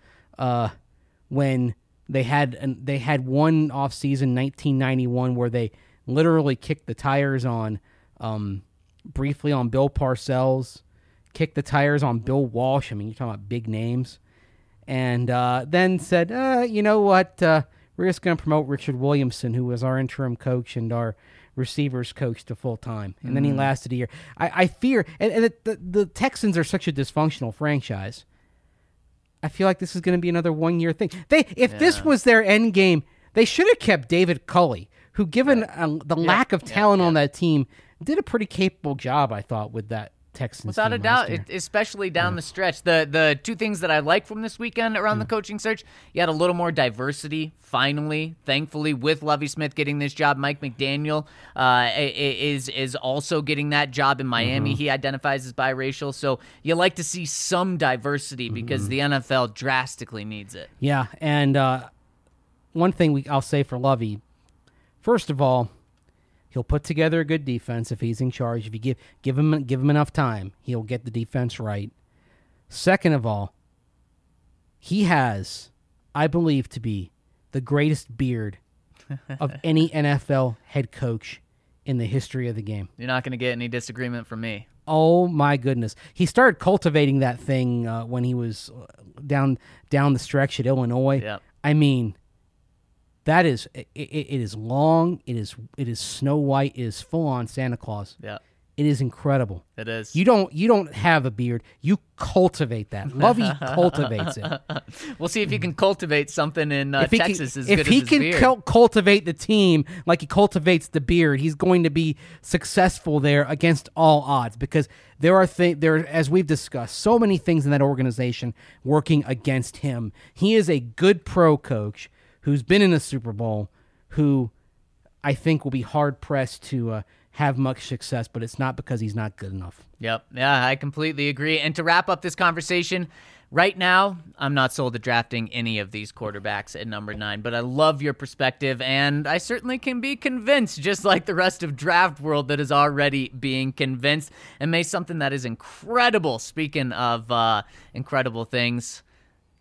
when they had one offseason, 1991, where they literally kicked the tires on briefly on Bill Parcells, kicked the tires on Bill Walsh. I mean, you're talking about big names. And then said, you know what, we're just going to promote Richard Williamson, who was our interim coach and our receivers coach, to full-time. And then he lasted a year. I fear, and the Texans are such a dysfunctional franchise, I feel like this is going to be another one-year thing. If this was their end game, they should have kept David Culley, who, given the lack of talent on that team, did a pretty capable job, I thought, with that Texans without team a doubt, last year. especially down the stretch. The two things that I like from this weekend around the coaching search, you had a little more diversity, finally, thankfully, with Lovie Smith getting this job. Mike McDaniel is also getting that job in Miami. He identifies as biracial, so you like to see some diversity because the NFL drastically needs it. Yeah, and one thing I'll say for Lovie, first of all, he'll put together a good defense if he's in charge. If you give him enough time, he'll get the defense right. Second of all, he has, I believe, to be the greatest beard of any NFL head coach in the history of the game. You're not going to get any disagreement from me. Oh my goodness! He started cultivating that thing when he was down the stretch at Illinois. Yep. I mean, that is it is long. It is Snow White. It is full on Santa Claus. Yeah, it is incredible. It is. You don't have a beard. You cultivate that. Lovey cultivates it. We'll see if he can cultivate something in Texas as good as his beard. If he can cultivate the team like he cultivates the beard, he's going to be successful there against all odds, because there are as we've discussed, so many things in that organization working against him. He is a good pro coach who's been in the Super Bowl, who I think will be hard-pressed to have much success, but it's not because he's not good enough. Yep. Yeah, I completely agree. And to wrap up this conversation, right now, I'm not sold to drafting any of these quarterbacks at number 9, but I love your perspective, and I certainly can be convinced, just like the rest of draft world that is already being convinced, and made something that is incredible. Speaking of incredible things,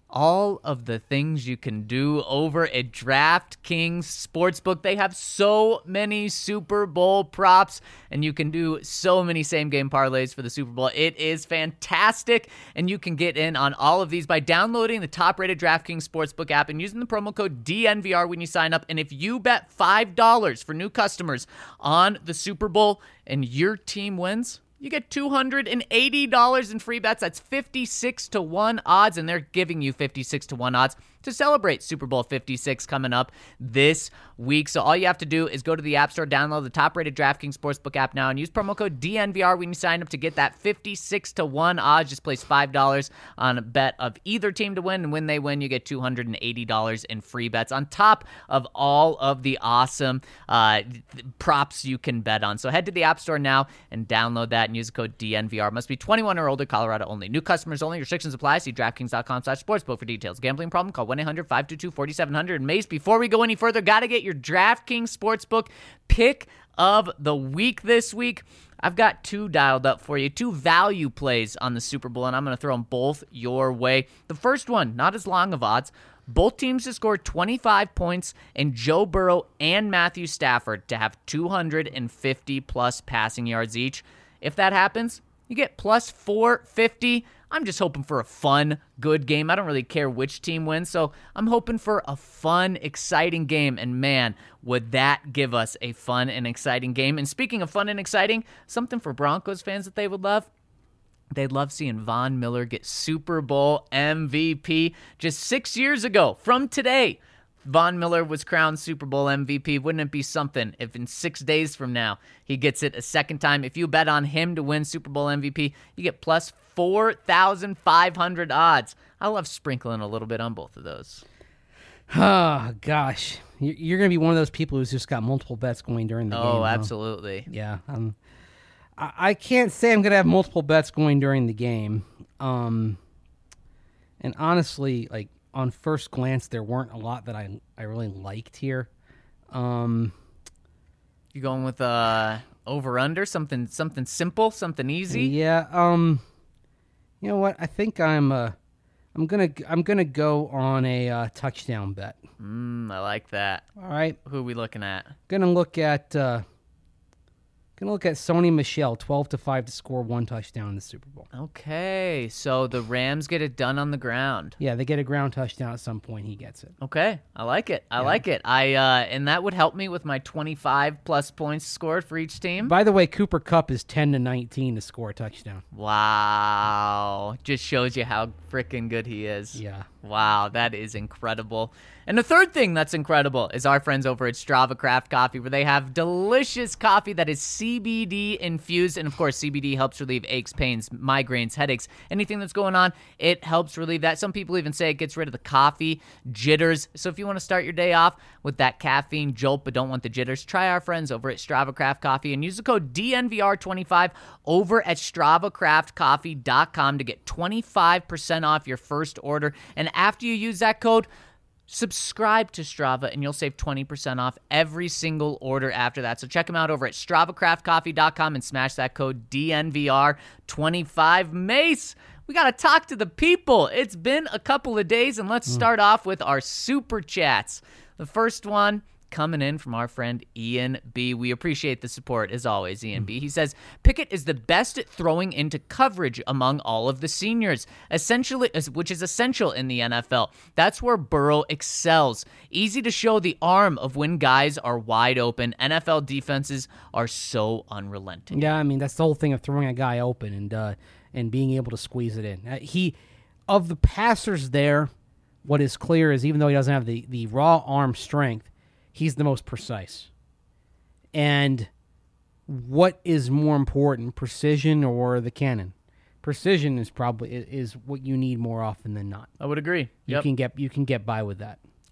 all of the things you can do over at DraftKings Sportsbook. They have so many Super Bowl props, and you can do so many same-game parlays for the Super Bowl. It is fantastic, and you can get in on all of these by downloading the top-rated DraftKings Sportsbook app and using the promo code DNVR when you sign up. And if you bet $5 for new customers on the Super Bowl and your team wins, you get $280 in free bets. That's 56-1 odds, and they're giving you 56-1 odds to celebrate Super Bowl 56 coming up this week. So all you have to do is go to the App Store, download the top-rated DraftKings Sportsbook app now, and use promo code DNVR when you sign up to get that 56-1 odds. Just place $5 on a bet of either team to win, and when they win, you get $280 in free bets on top of all of the awesome props you can bet on. So head to the App Store now and download that and use the code DNVR. Must be 21 or older, Colorado only. New customers only. Restrictions apply. See DraftKings.com/sportsbook for details. Gambling problem? Call 1-800-522-4700. Mace, before we go any further, got to get your DraftKings Sportsbook pick of the week this week. I've got two dialed up for you, two value plays on the Super Bowl, and I'm going to throw them both your way. The first one, not as long of odds. Both teams to score 25 points, and Joe Burrow and Matthew Stafford to have 250-plus passing yards each. If that happens, you get plus 450. I'm just hoping for a fun, good game. I don't really care which team wins, so I'm hoping for a fun, exciting game. And man, would that give us a fun and exciting game. And speaking of fun and exciting, something for Broncos fans that they would love. They'd love seeing Von Miller get Super Bowl MVP. Just 6 years ago from today, Von Miller was crowned Super Bowl MVP. Wouldn't it be something if in 6 days from now he gets it a second time? If you bet on him to win Super Bowl MVP, you get plus 4,500 odds. I love sprinkling a little bit on both of those. Oh, gosh. You're going to be one of those people who's just got multiple bets going during the game. Oh, absolutely. Huh? Yeah. I can't say I'm going to have multiple bets going during the game. And honestly, like, on first glance, there weren't a lot that I really liked here. You going with over/under, something simple, something easy? Yeah. You know what? I think I'm gonna go on a touchdown bet. I like that. All right. Who are we looking at? Gonna look at Sony Michel, 12-5 to score one touchdown in the Super Bowl. Okay, so the Rams get it done on the ground. Yeah, they get a ground touchdown at some point. He gets it. Okay, I like it. I like it. And that would help me with my 25 plus points scored for each team. By the way, Cooper Kupp is 10-19 to score a touchdown. Wow, just shows you how freaking good he is. Yeah. Wow, that is incredible. And the third thing that's incredible is our friends over at Strava Craft Coffee, where they have delicious coffee that is CBD infused. And of course, CBD helps relieve aches, pains, migraines, headaches, anything that's going on. It helps relieve that. Some people even say it gets rid of the coffee jitters. So if you want to start your day off with that caffeine jolt but don't want the jitters, try our friends over at Strava Craft Coffee and use the code DNVR25 over at StravaCraftCoffee.com to get 25% off your first order. And after you use that code, subscribe to Strava, and you'll save 20% off every single order after that. So check them out over at StravaCraftCoffee.com and smash that code DNVR25. Mace, we got to talk to the people. It's been a couple of days, and let's start off with our Super Chats. The first one coming in from our friend Ian B. We appreciate the support, as always, Ian B. He says, Pickett is the best at throwing into coverage among all of the seniors, which is essential in the NFL. That's where Burrow excels. Easy to show the arm of when guys are wide open. NFL defenses are so unrelenting. Yeah, I mean, that's the whole thing of throwing a guy open and being able to squeeze it in. Of the passers there, what is clear is even though he doesn't have the raw arm strength, he's the most precise. And what is more important, precision or the cannon? Precision is probably is what you need more often than not. I would agree. You can get by with that.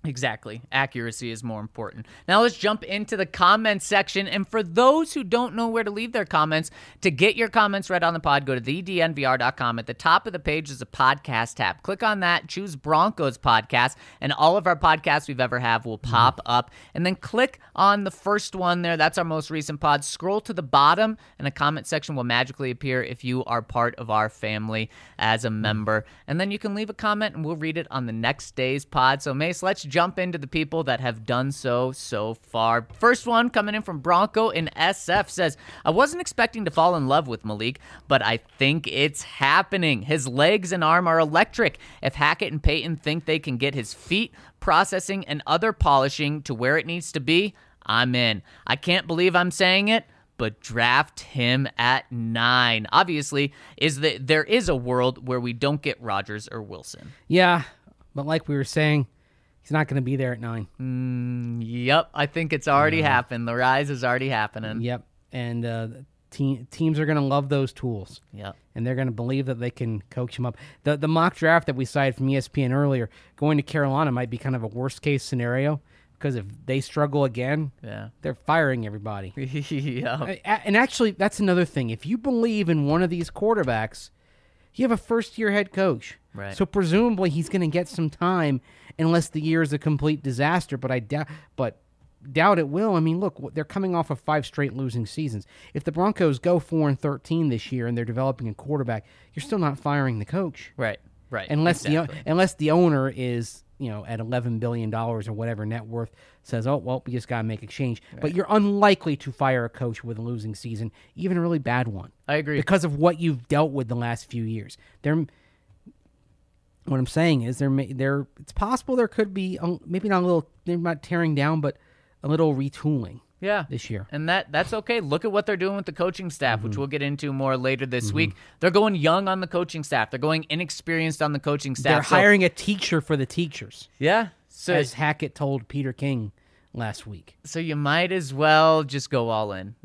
Exactly. Accuracy is more important. Now let's jump into the comments section. And for those who don't know where to leave their comments, to get your comments read on the pod, go to thednvr.com. At the top of the page is a podcast tab. Click on that, choose Broncos podcast, and all of our podcasts we've ever have will pop up. And then click on the first one there. That's our most recent pod. Scroll to the bottom, and a comment section will magically appear if you are part of our family as a member. And then you can leave a comment, and we'll read it on the next day's pod. So, Mace, let's jump into the people that have done so far. First one coming in from Bronco in SF says, I wasn't expecting to fall in love with Malik, but I think it's happening. His legs and arm are electric. If Hackett and Peyton think they can get his feet, processing, and other polishing to where it needs to be, I'm in. I can't believe I'm saying it, but draft him at 9. Obviously, there is a world where we don't get Rodgers or Wilson. Yeah, but like we were saying, he's not going to be there at 9. Yep, I think it's already happened. The rise is already happening. Yep, and teams are going to love those tools. Yep. And they're going to believe that they can coach him up. The mock draft that we cited from ESPN earlier, going to Carolina might be kind of a worst-case scenario, because if they struggle again, they're firing everybody. Yep. And actually, that's another thing. If you believe in one of these quarterbacks, you have a first-year head coach. Right. So presumably he's going to get some time, unless the year is a complete disaster. But I doubt it will. I mean, look, they're coming off of 5 straight losing seasons. If the Broncos go 4-13 this year and they're developing a quarterback, you're still not firing the coach. Right. Unless exactly. unless the owner is, at $11 billion or whatever net worth, says, oh, well, we just got to make a change. Right. But you're unlikely to fire a coach with a losing season, even a really bad one. I agree. Because of what you've dealt with the last few years. What I'm saying is it's possible there could be, maybe not a little, maybe not tearing down, but a little retooling. This year. And that's okay. Look at what they're doing with the coaching staff, which we'll get into more later this week. They're going young on the coaching staff. They're going inexperienced on the coaching staff. They're hiring a teacher for the teachers. Yeah. So, as Hackett told Peter King last week. So you might as well just go all in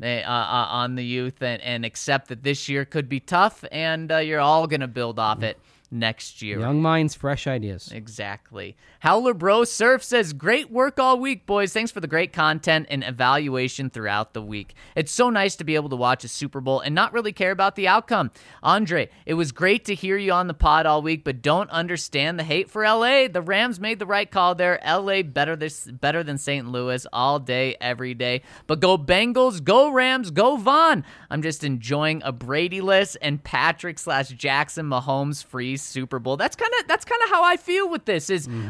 on the youth and accept that this year could be tough, and you're all going to build off it next year. Young minds, fresh ideas. Exactly. Howler Bro Surf says, great work all week, boys. Thanks for the great content and evaluation throughout the week. It's so nice to be able to watch a Super Bowl and not really care about the outcome. Andre, it was great to hear you on the pod all week, but don't understand the hate for LA. The Rams made the right call there. LA better than St. Louis all day, every day. But go Bengals, go Rams, go Vaughn. I'm just enjoying a Brady-less and Patrick/Jackson Mahomes free Super Bowl. That's kind of how I feel with this.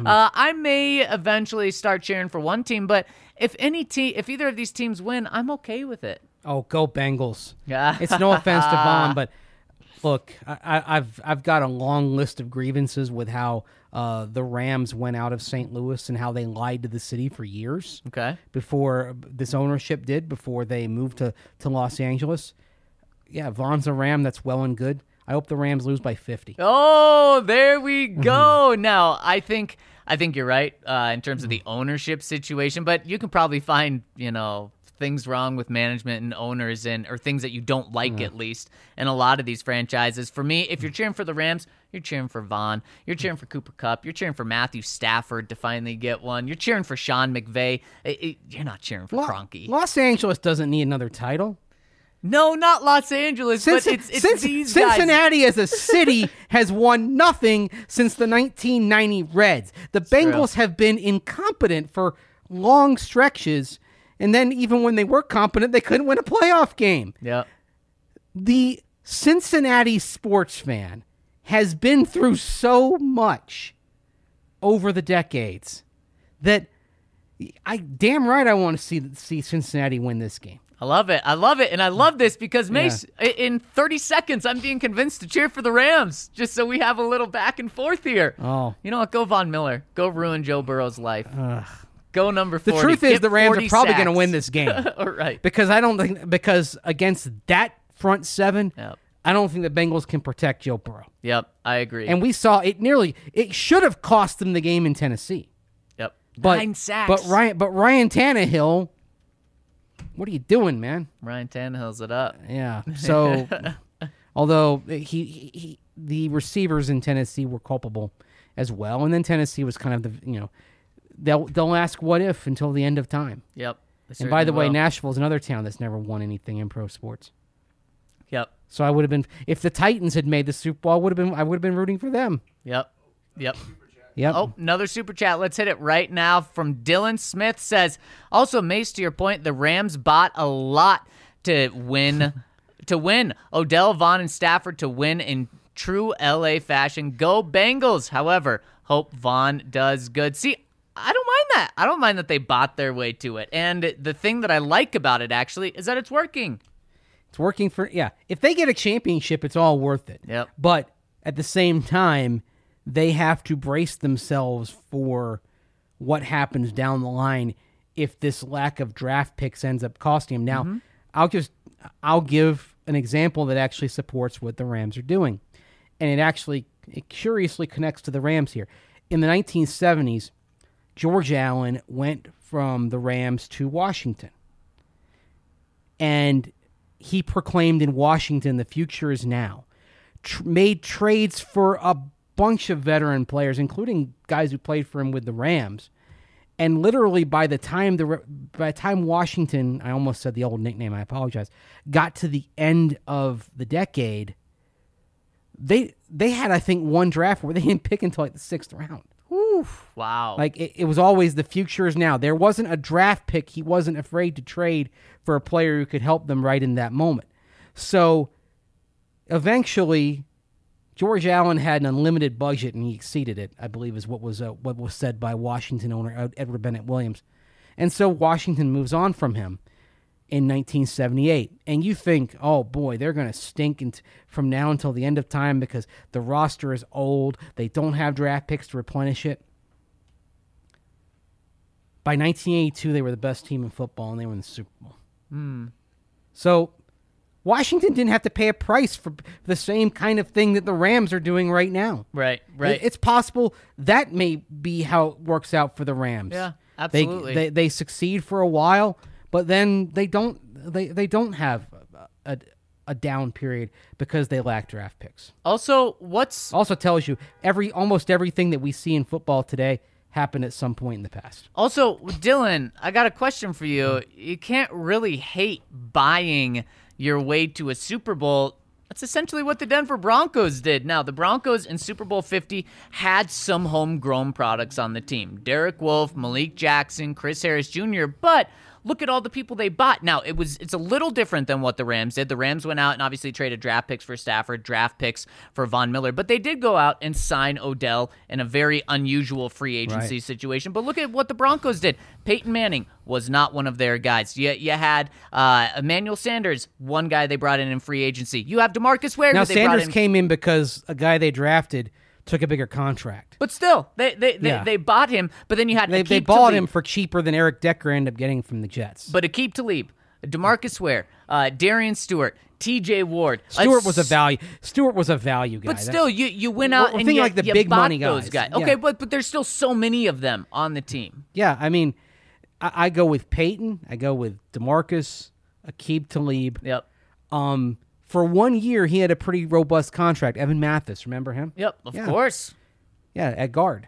I may eventually start cheering for one team, but if either of these teams win, I'm okay with it. Oh, go Bengals! It's no offense to Vaughn, but look, I've got a long list of grievances with how the Rams went out of St. Louis and how they lied to the city for years. Okay. Before this ownership before they moved to Los Angeles. Yeah, Vaughn's a Ram. That's well and good. I hope the Rams lose by 50. Oh, there we go. Now, I think you're right in terms of the ownership situation, but you can probably find, things wrong with management and owners or things that you don't like at least in a lot of these franchises. For me, if you're cheering for the Rams, you're cheering for Vaughn. You're cheering for Cooper Kupp. You're cheering for Matthew Stafford to finally get one. You're cheering for Sean McVay. You're not cheering for Kroenke. Los Angeles doesn't need another title. No, not Los Angeles, but it's these guys. Cincinnati as a city has won nothing since the 1990 Reds. The Bengals have been incompetent for long stretches, and then even when they were competent, they couldn't win a playoff game. Yeah. The Cincinnati sports fan has been through so much over the decades that damn right I want to see Cincinnati win this game. I love it. And I love this because, Mace, in 30 seconds, I'm being convinced to cheer for the Rams just so we have a little back and forth here. Oh. You know what? Go Von Miller. Go ruin Joe Burrow's life. Go number 40. The truth is the Rams are probably going to win this game. All right. Because against that front seven, I don't think the Bengals can protect Joe Burrow. Yep, I agree. And we saw it should have cost them the game in Tennessee. Yep. But, 9 sacks. But Ryan Tannehill, what are you doing, man? Ryan Tannehill's it up. Yeah. So, although the receivers in Tennessee were culpable as well, and then Tennessee was kind of they'll ask what if until the end of time. Yep. And by the way, will. Nashville's another town that's never won anything in pro sports. Yep. So I would have been, if the Titans had made the Super Bowl, I would have been rooting for them. Yep. Yep. Yep. Oh, another super chat. Let's hit it right now from Dylan Smith says, also, Mace, to your point, the Rams bought a lot to win. Odell, Vaughn, and Stafford to win in true LA fashion. Go Bengals. However, hope Vaughn does good. See, I don't mind that. I don't mind that they bought their way to it. And the thing that I like about it, actually, is that it's working. It's working for, if they get a championship, it's all worth it. Yep. But at the same time, they have to brace themselves for what happens down the line if this lack of draft picks ends up costing them. Now, I'll give an example that actually supports what the Rams are doing. And it curiously connects to the Rams here. In the 1970s, George Allen went from the Rams to Washington. And he proclaimed in Washington, the future is now. Made trades for a bunch of veteran players, including guys who played for him with the Rams. And literally by the time Washington, I almost said the old nickname, I apologize, got to the end of the decade, they had, I think, one draft where they didn't pick until like the 6th round. Wow. Like, it was always the future is now. There wasn't a draft pick he wasn't afraid to trade for a player who could help them right in that moment. So, eventually, George Allen had an unlimited budget, and he exceeded it, I believe is what was said by Washington owner Edward Bennett Williams. And so Washington moves on from him in 1978. And you think, oh boy, they're going to stink from now until the end of time because the roster is old. They don't have draft picks to replenish it. By 1982, they were the best team in football, and they were in the Super Bowl. So Washington didn't have to pay a price for the same kind of thing that the Rams are doing right now. Right. It's possible that may be how it works out for the Rams. Yeah, absolutely. They succeed for a while, but then they don't have a down period because they lack draft picks. Also tells you almost everything that we see in football today happened at some point in the past. Also, Dylan, I got a question for you. You can't really hate buying your way to a Super Bowl. That's essentially what the Denver Broncos did. Now, the Broncos in Super Bowl 50 had some homegrown products on the team. Derek Wolfe, Malik Jackson, Chris Harris Jr., but look at all the people they bought. Now, it's a little different than what the Rams did. The Rams went out and obviously traded draft picks for Stafford, draft picks for Von Miller, but they did go out and sign Odell in a very unusual free agency situation. But look at what the Broncos did. Peyton Manning was not one of their guys. You had Emmanuel Sanders, one guy they brought in free agency. You have DeMarcus Ware. Now, who they Sanders brought in. came in because a guy they drafted took a bigger contract. But still, they bought him, but then you had they bought him for cheaper than Eric Decker ended up getting from the Jets. But Aqib Talib, DeMarcus Ware, Darian Stewart, T.J. Ward. Stewart was a value. Stewart was a value guy. But still, you went out and like the big bought money those guys. Yeah. Okay, but there's still so many of them on the team. Yeah, I mean, I go with Peyton. I go with DeMarcus, Aqib Talib. Yep. For 1 year, he had a pretty robust contract. Evan Mathis, remember him? Yep, of course. Yeah, at guard.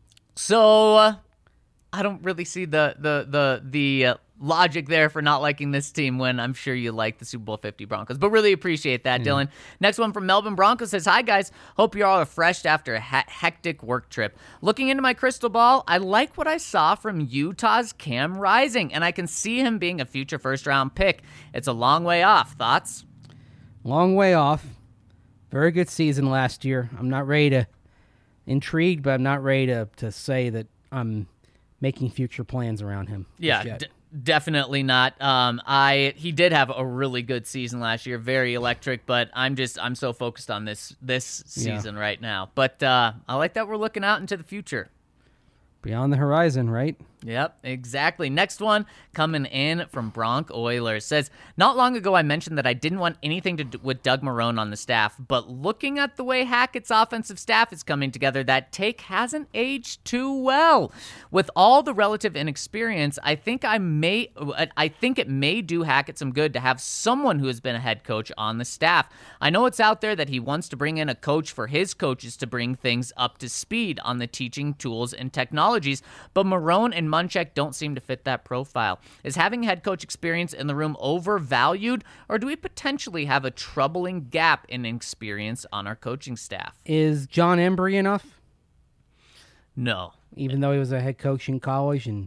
So I don't really see the logic there for not liking this team when I'm sure you like the Super Bowl 50 Broncos. But really appreciate that, Dylan. Next one from Melbourne Broncos says, hi, guys. Hope you're all refreshed after a hectic work trip. Looking into my crystal ball, I like what I saw from Utah's Cam Rising, and I can see him being a future first-round pick. It's a long way off. Thoughts? Long way off. Very good season last year. I'm not ready to intrigued, but I'm not ready to say that I'm making future plans around him. Yeah, definitely not. He did have a really good season last year, very electric, but I'm so focused on this season right now. But I like that we're looking out into the future. Beyond the horizon, right? Yep, exactly. Next one coming in from Bronc Oilers says, not long ago I mentioned that I didn't want anything to do with Doug Marrone on the staff, but looking at the way Hackett's offensive staff is coming together, that take hasn't aged too well. With all the relative inexperience, I think it may do Hackett some good to have someone who has been a head coach on the staff. I know it's out there that he wants to bring in a coach for his coaches to bring things up to speed on the teaching tools and technologies, but Marrone and Munchak don't seem to fit that profile. Is having head coach experience in the room overvalued, or do we potentially have a troubling gap in experience on our coaching staff? Is John Embry enough? No. Even though he was a head coach in college and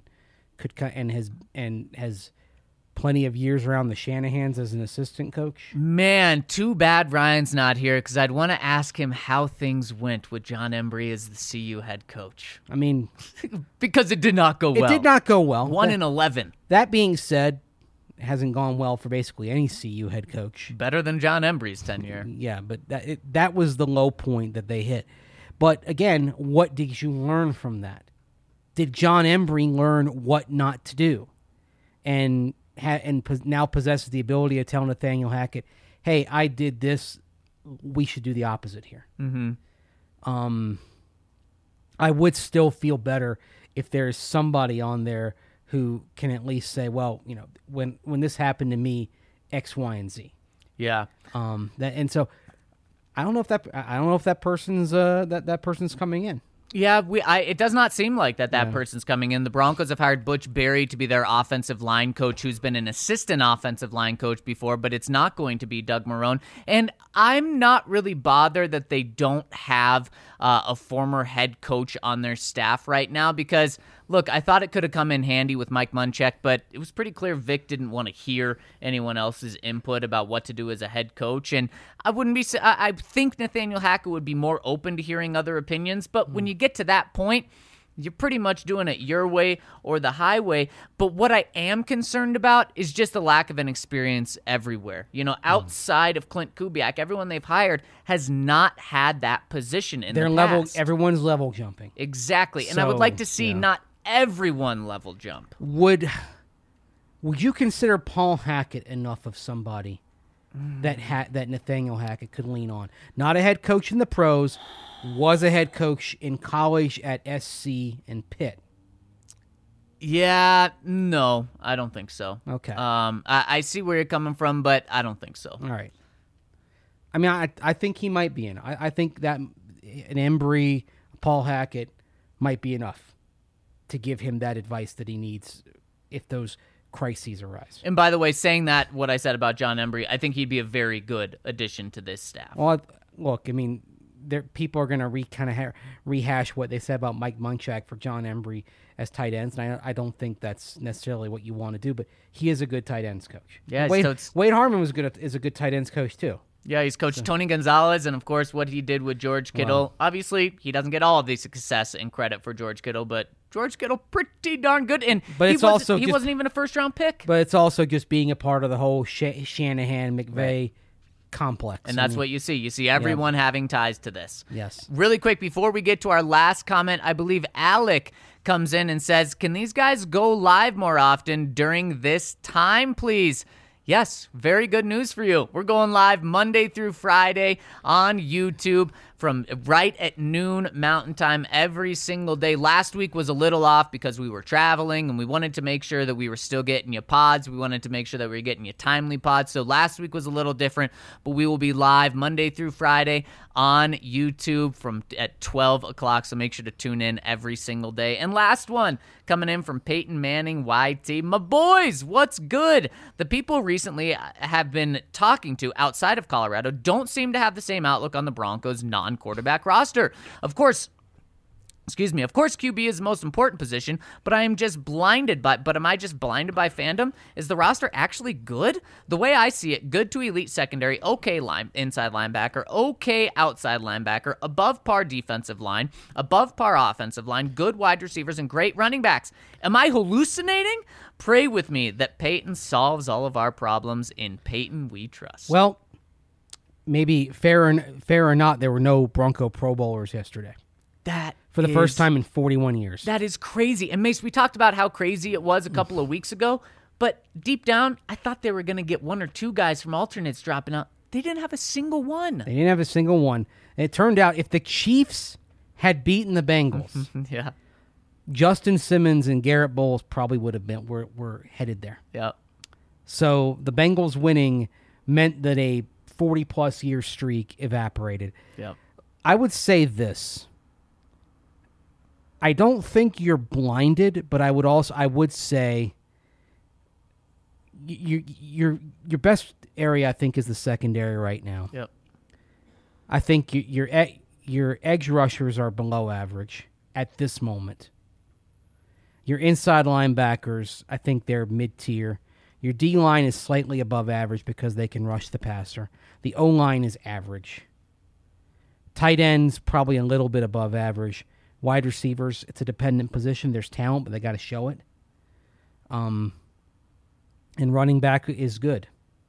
has plenty of years around the Shanahans as an assistant coach. Man, too bad Ryan's not here, because I'd want to ask him how things went with John Embry as the CU head coach. I mean, because it did not go well. It did not go well. 1-11. That being said, it hasn't gone well for basically any CU head coach. Better than John Embry's tenure. Yeah, but that was the low point that they hit. But again, what did you learn from that? Did John Embry learn what not to do? And now possesses the ability to tell Nathaniel Hackett, hey, I did this. We should do the opposite here. Mm-hmm. I would still feel better if there's somebody on there who can at least say, well, you know, when this happened to me, X, Y, and Z. Yeah. And so I don't know if that person's that person's coming in. Yeah, it does not seem like that person's coming in. The Broncos have hired Butch Berry to be their offensive line coach, who's been an assistant offensive line coach before, but it's not going to be Doug Marrone. And I'm not really bothered that they don't have a former head coach on their staff right now because, look, I thought it could have come in handy with Mike Munchak, but it was pretty clear Vic didn't want to hear anyone else's input about what to do as a head coach. And I think Nathaniel Hackett would be more open to hearing other opinions, but when you get to that point, you're pretty much doing it your way or the highway. But what I am concerned about is just the lack of an experience everywhere. You know, outside of Clint Kubiak, everyone they've hired has not had that position in the past. Everyone's level jumping. Exactly. And I would like to see not everyone level jump. Would you consider Paul Hackett enough of somebody that Nathaniel Hackett could lean on? Not a head coach in the pros, was a head coach in college at SC and Pitt. Yeah, no, I don't think so. Okay. I see where you're coming from, but I don't think so. All right. I mean, I think he might be in. I think that an Embry, Paul Hackett might be enough to give him that advice that he needs if those crises arise. And by the way, saying that, what I said about John Embry, I think he'd be a very good addition to this staff. Well, look, I mean, people are going to rehash what they said about Mike Munchak for John Embry as tight ends, and I don't think that's necessarily what you want to do, but he is a good tight ends coach. Yeah, Wade Harmon is a good tight ends coach, too. Yeah, he's coached Tony Gonzalez, and of course what he did with George Kittle. Wow. Obviously, he doesn't get all of the success and credit for George Kittle, but George Kittle pretty darn good. And but he wasn't even a first-round pick. But it's also just being a part of the whole Shanahan, McVay complex. And that's what you see. You see everyone having ties to this. Yes. Really quick, before we get to our last comment, I believe Alec comes in and says, can these guys go live more often during this time, please? Yes, very good news for you. We're going live Monday through Friday on YouTube from right at noon Mountain Time every single day. Last week was a little off because we were traveling and we wanted to make sure that we were still getting you pods. We wanted to make sure that we were getting you timely pods. So last week was a little different, but we will be live Monday through Friday on YouTube at 12 o'clock. So make sure to tune in every single day. And last one coming in from Peyton Manning YT. My boys, what's good? The people recently have been talking to outside of Colorado don't seem to have the same outlook on the Broncos' non-quarterback roster. Of course, QB is the most important position, but am I just blinded by fandom? Is the roster actually good? The way I see it, good to elite secondary, okay inside linebacker, okay outside linebacker, above par defensive line, above par offensive line, good wide receivers, and great running backs. Am I hallucinating? Pray with me that Peyton solves all of our problems. In Peyton we trust. Well, maybe fair or not, there were no Bronco Pro Bowlers yesterday. That for the first time in 41 years. That is crazy. And Mace, we talked about how crazy it was a couple of weeks ago, but deep down, I thought they were going to get one or two guys from alternates dropping out. They didn't have a single one. They didn't have a single one. And it turned out if the Chiefs had beaten the Bengals, Yeah. Justin Simmons and Garrett Bowles probably would have been were headed there. Yep. So the Bengals winning meant that a 40-plus year streak evaporated. Yep. I would say this. I don't think you're blinded, but I would say your best area I think is the secondary right now. Yep. I think your edge rushers are below average at this moment. Your inside linebackers, I think they're mid-tier. Your D-line is slightly above average because they can rush the passer. The O-line is average. Tight ends, probably a little bit above average. Wide receivers, it's a dependent position. There's talent, but they got to show it. And running back is good.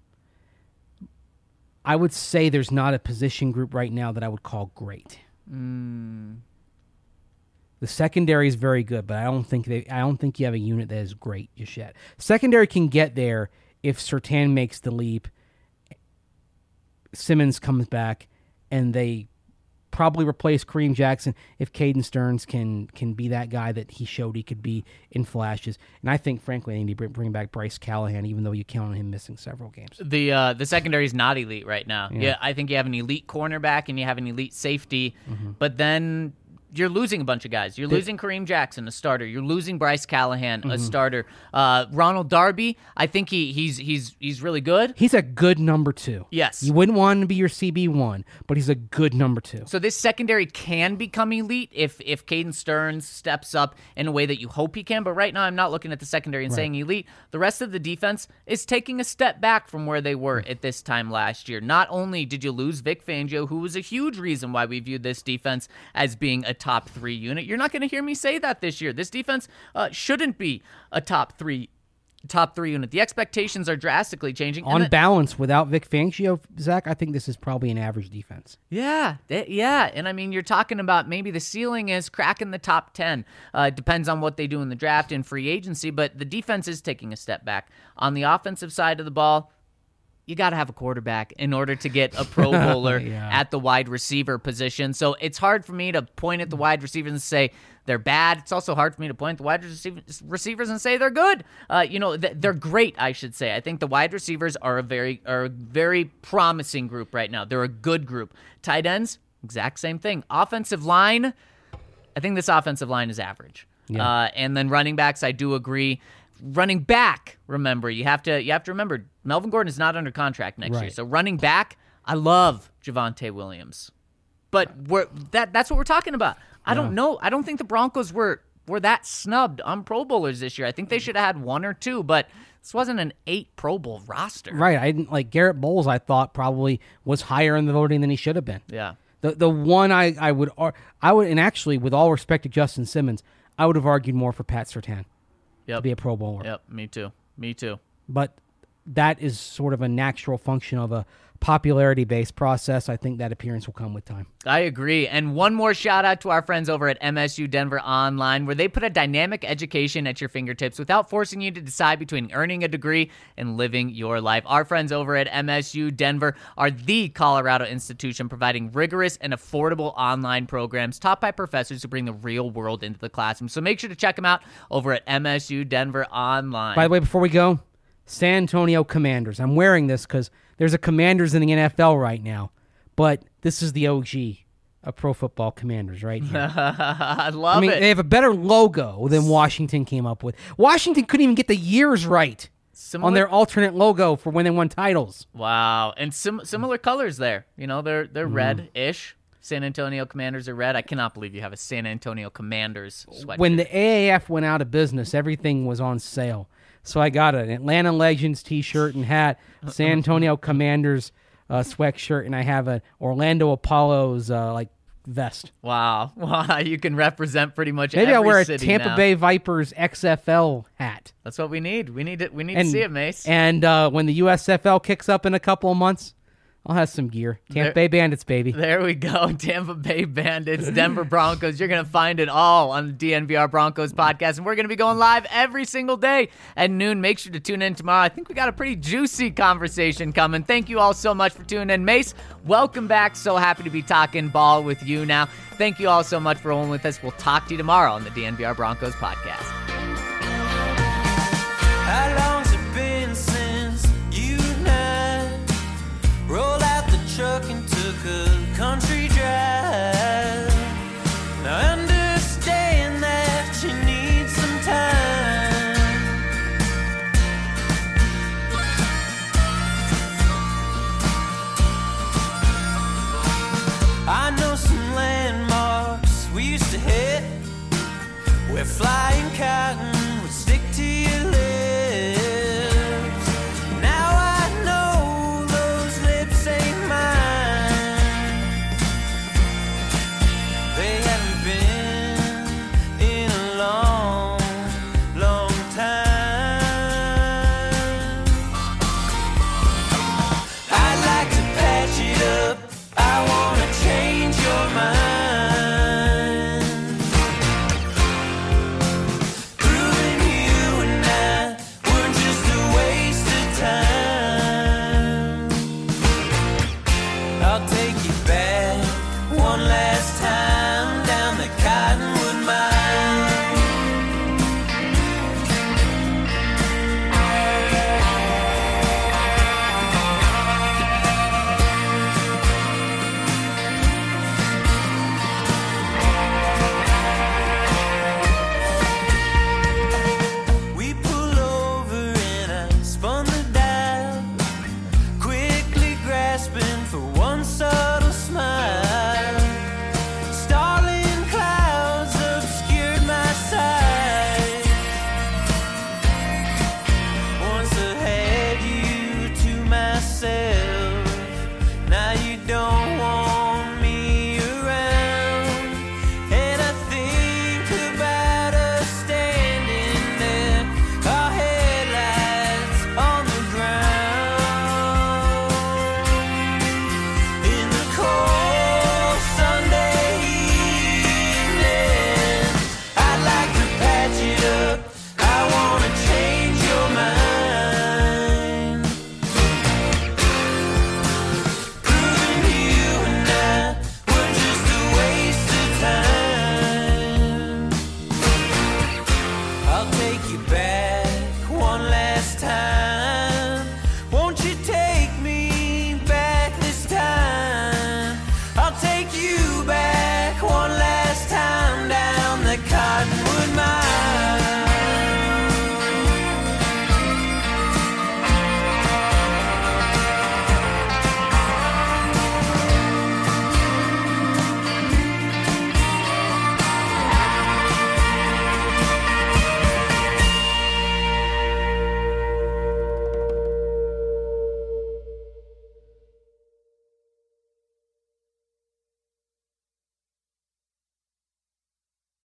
I would say there's not a position group right now that I would call great. The secondary is very good, but I don't think you have a unit that is great just yet. Secondary can get there if Surtain makes the leap, Simmons comes back, and they probably replace Kareem Jackson if Caden Stearns can be that guy that he showed he could be in flashes. And I think, frankly, they need to bring back Bryce Callahan, even though you count on him missing several games. The secondary is not elite right now. Yeah, I think you have an elite cornerback and you have an elite safety, but then you're losing a bunch of guys. You're losing Kareem Jackson, a starter. You're losing Bryce Callahan, a starter. Ronald Darby, I think he's really good. He's a good number 2. Yes. You wouldn't want him to be your CB1, but he's a good number 2. So this secondary can become elite if Caden Stearns steps up in a way that you hope he can. But right now, I'm not looking at the secondary and saying elite. The rest of the defense is taking a step back from where they were at this time last year. Not only did you lose Vic Fangio, who was a huge reason why we viewed this defense as being a top 3 unit. You're not going to hear me say that this year. This defense shouldn't be a top three unit. The expectations are drastically changing. On balance, without Vic Fangio, Zach, I think this is probably an average defense. Yeah. And I mean, you're talking about maybe the ceiling is cracking the top 10. It depends on what they do in the draft and free agency, but the defense is taking a step back. On the offensive side of the ball, you got to have a quarterback in order to get a Pro Bowler at the wide receiver position. So it's hard for me to point at the wide receivers and say they're bad. It's also hard for me to point at the wide receivers and say they're good. They're great, I should say. I think the wide receivers are a very promising group right now. They're a good group. Tight ends, exact same thing. Offensive line, I think this offensive line is average. Yeah. And then running backs, I do agree. Running back, remember, you have to remember, Melvin Gordon is not under contract next year. So running back, I love Javonte Williams. But that's what we're talking about. I don't know. I don't think the Broncos were that snubbed on Pro Bowlers this year. I think they should have had 1 or 2, but this wasn't an 8 Pro Bowl roster. Right. I didn't like Garrett Bowles, I thought probably was higher in the voting than he should have been. Yeah. The one I would, and actually with all respect to Justin Simmons, I would have argued more for Pat Surtain. To be a Pro Bowler. Yep, me too. But that is sort of a natural function of a popularity-based process. I think that appearance will come with time. I agree. And one more shout-out to our friends over at MSU Denver Online, where they put a dynamic education at your fingertips without forcing you to decide between earning a degree and living your life. Our friends over at MSU Denver are the Colorado institution providing rigorous and affordable online programs taught by professors who bring the real world into the classroom. So make sure to check them out over at MSU Denver Online. By the way, before we go, San Antonio Commanders. I'm wearing this because there's a Commanders in the NFL right now, but this is the OG of Pro Football Commanders right here. I love it. They have a better logo than Washington came up with. Washington couldn't even get the years right on their alternate logo for when they won titles. Wow. And similar colors there. You know, they're red-ish. San Antonio Commanders are red. I cannot believe you have a San Antonio Commanders sweatshirt. When the AAF went out of business, everything was on sale. So I got an Atlanta Legends t-shirt and hat, San Antonio Commanders sweatshirt, and I have an Orlando Apollos vest. Wow. You can represent pretty much Maybe every I'll wear a city Tampa now. Bay Vipers XFL hat. That's what we need. We need to see it, Mace. And when the USFL kicks up in a couple of months, I'll have some gear. Tampa Bay Bandits, baby. There we go. Tampa Bay Bandits, Denver Broncos. You're going to find it all on the DNVR Broncos podcast. And we're going to be going live every single day at noon. Make sure to tune in tomorrow. I think we got a pretty juicy conversation coming. Thank you all so much for tuning in. Mace, welcome back. So happy to be talking ball with you now. Thank you all so much for rolling with us. We'll talk to you tomorrow on the DNVR Broncos podcast. How long's it been since you and I rolled out the truck and took a country drive? Now I understand that you need some time. I know some landmarks we used to hit where flying cotton would stick to your lips. Now I know those lips ain't mine. They haven't been in a long, long time. I'd like to patch it up. I wanna change your mind. Now you don't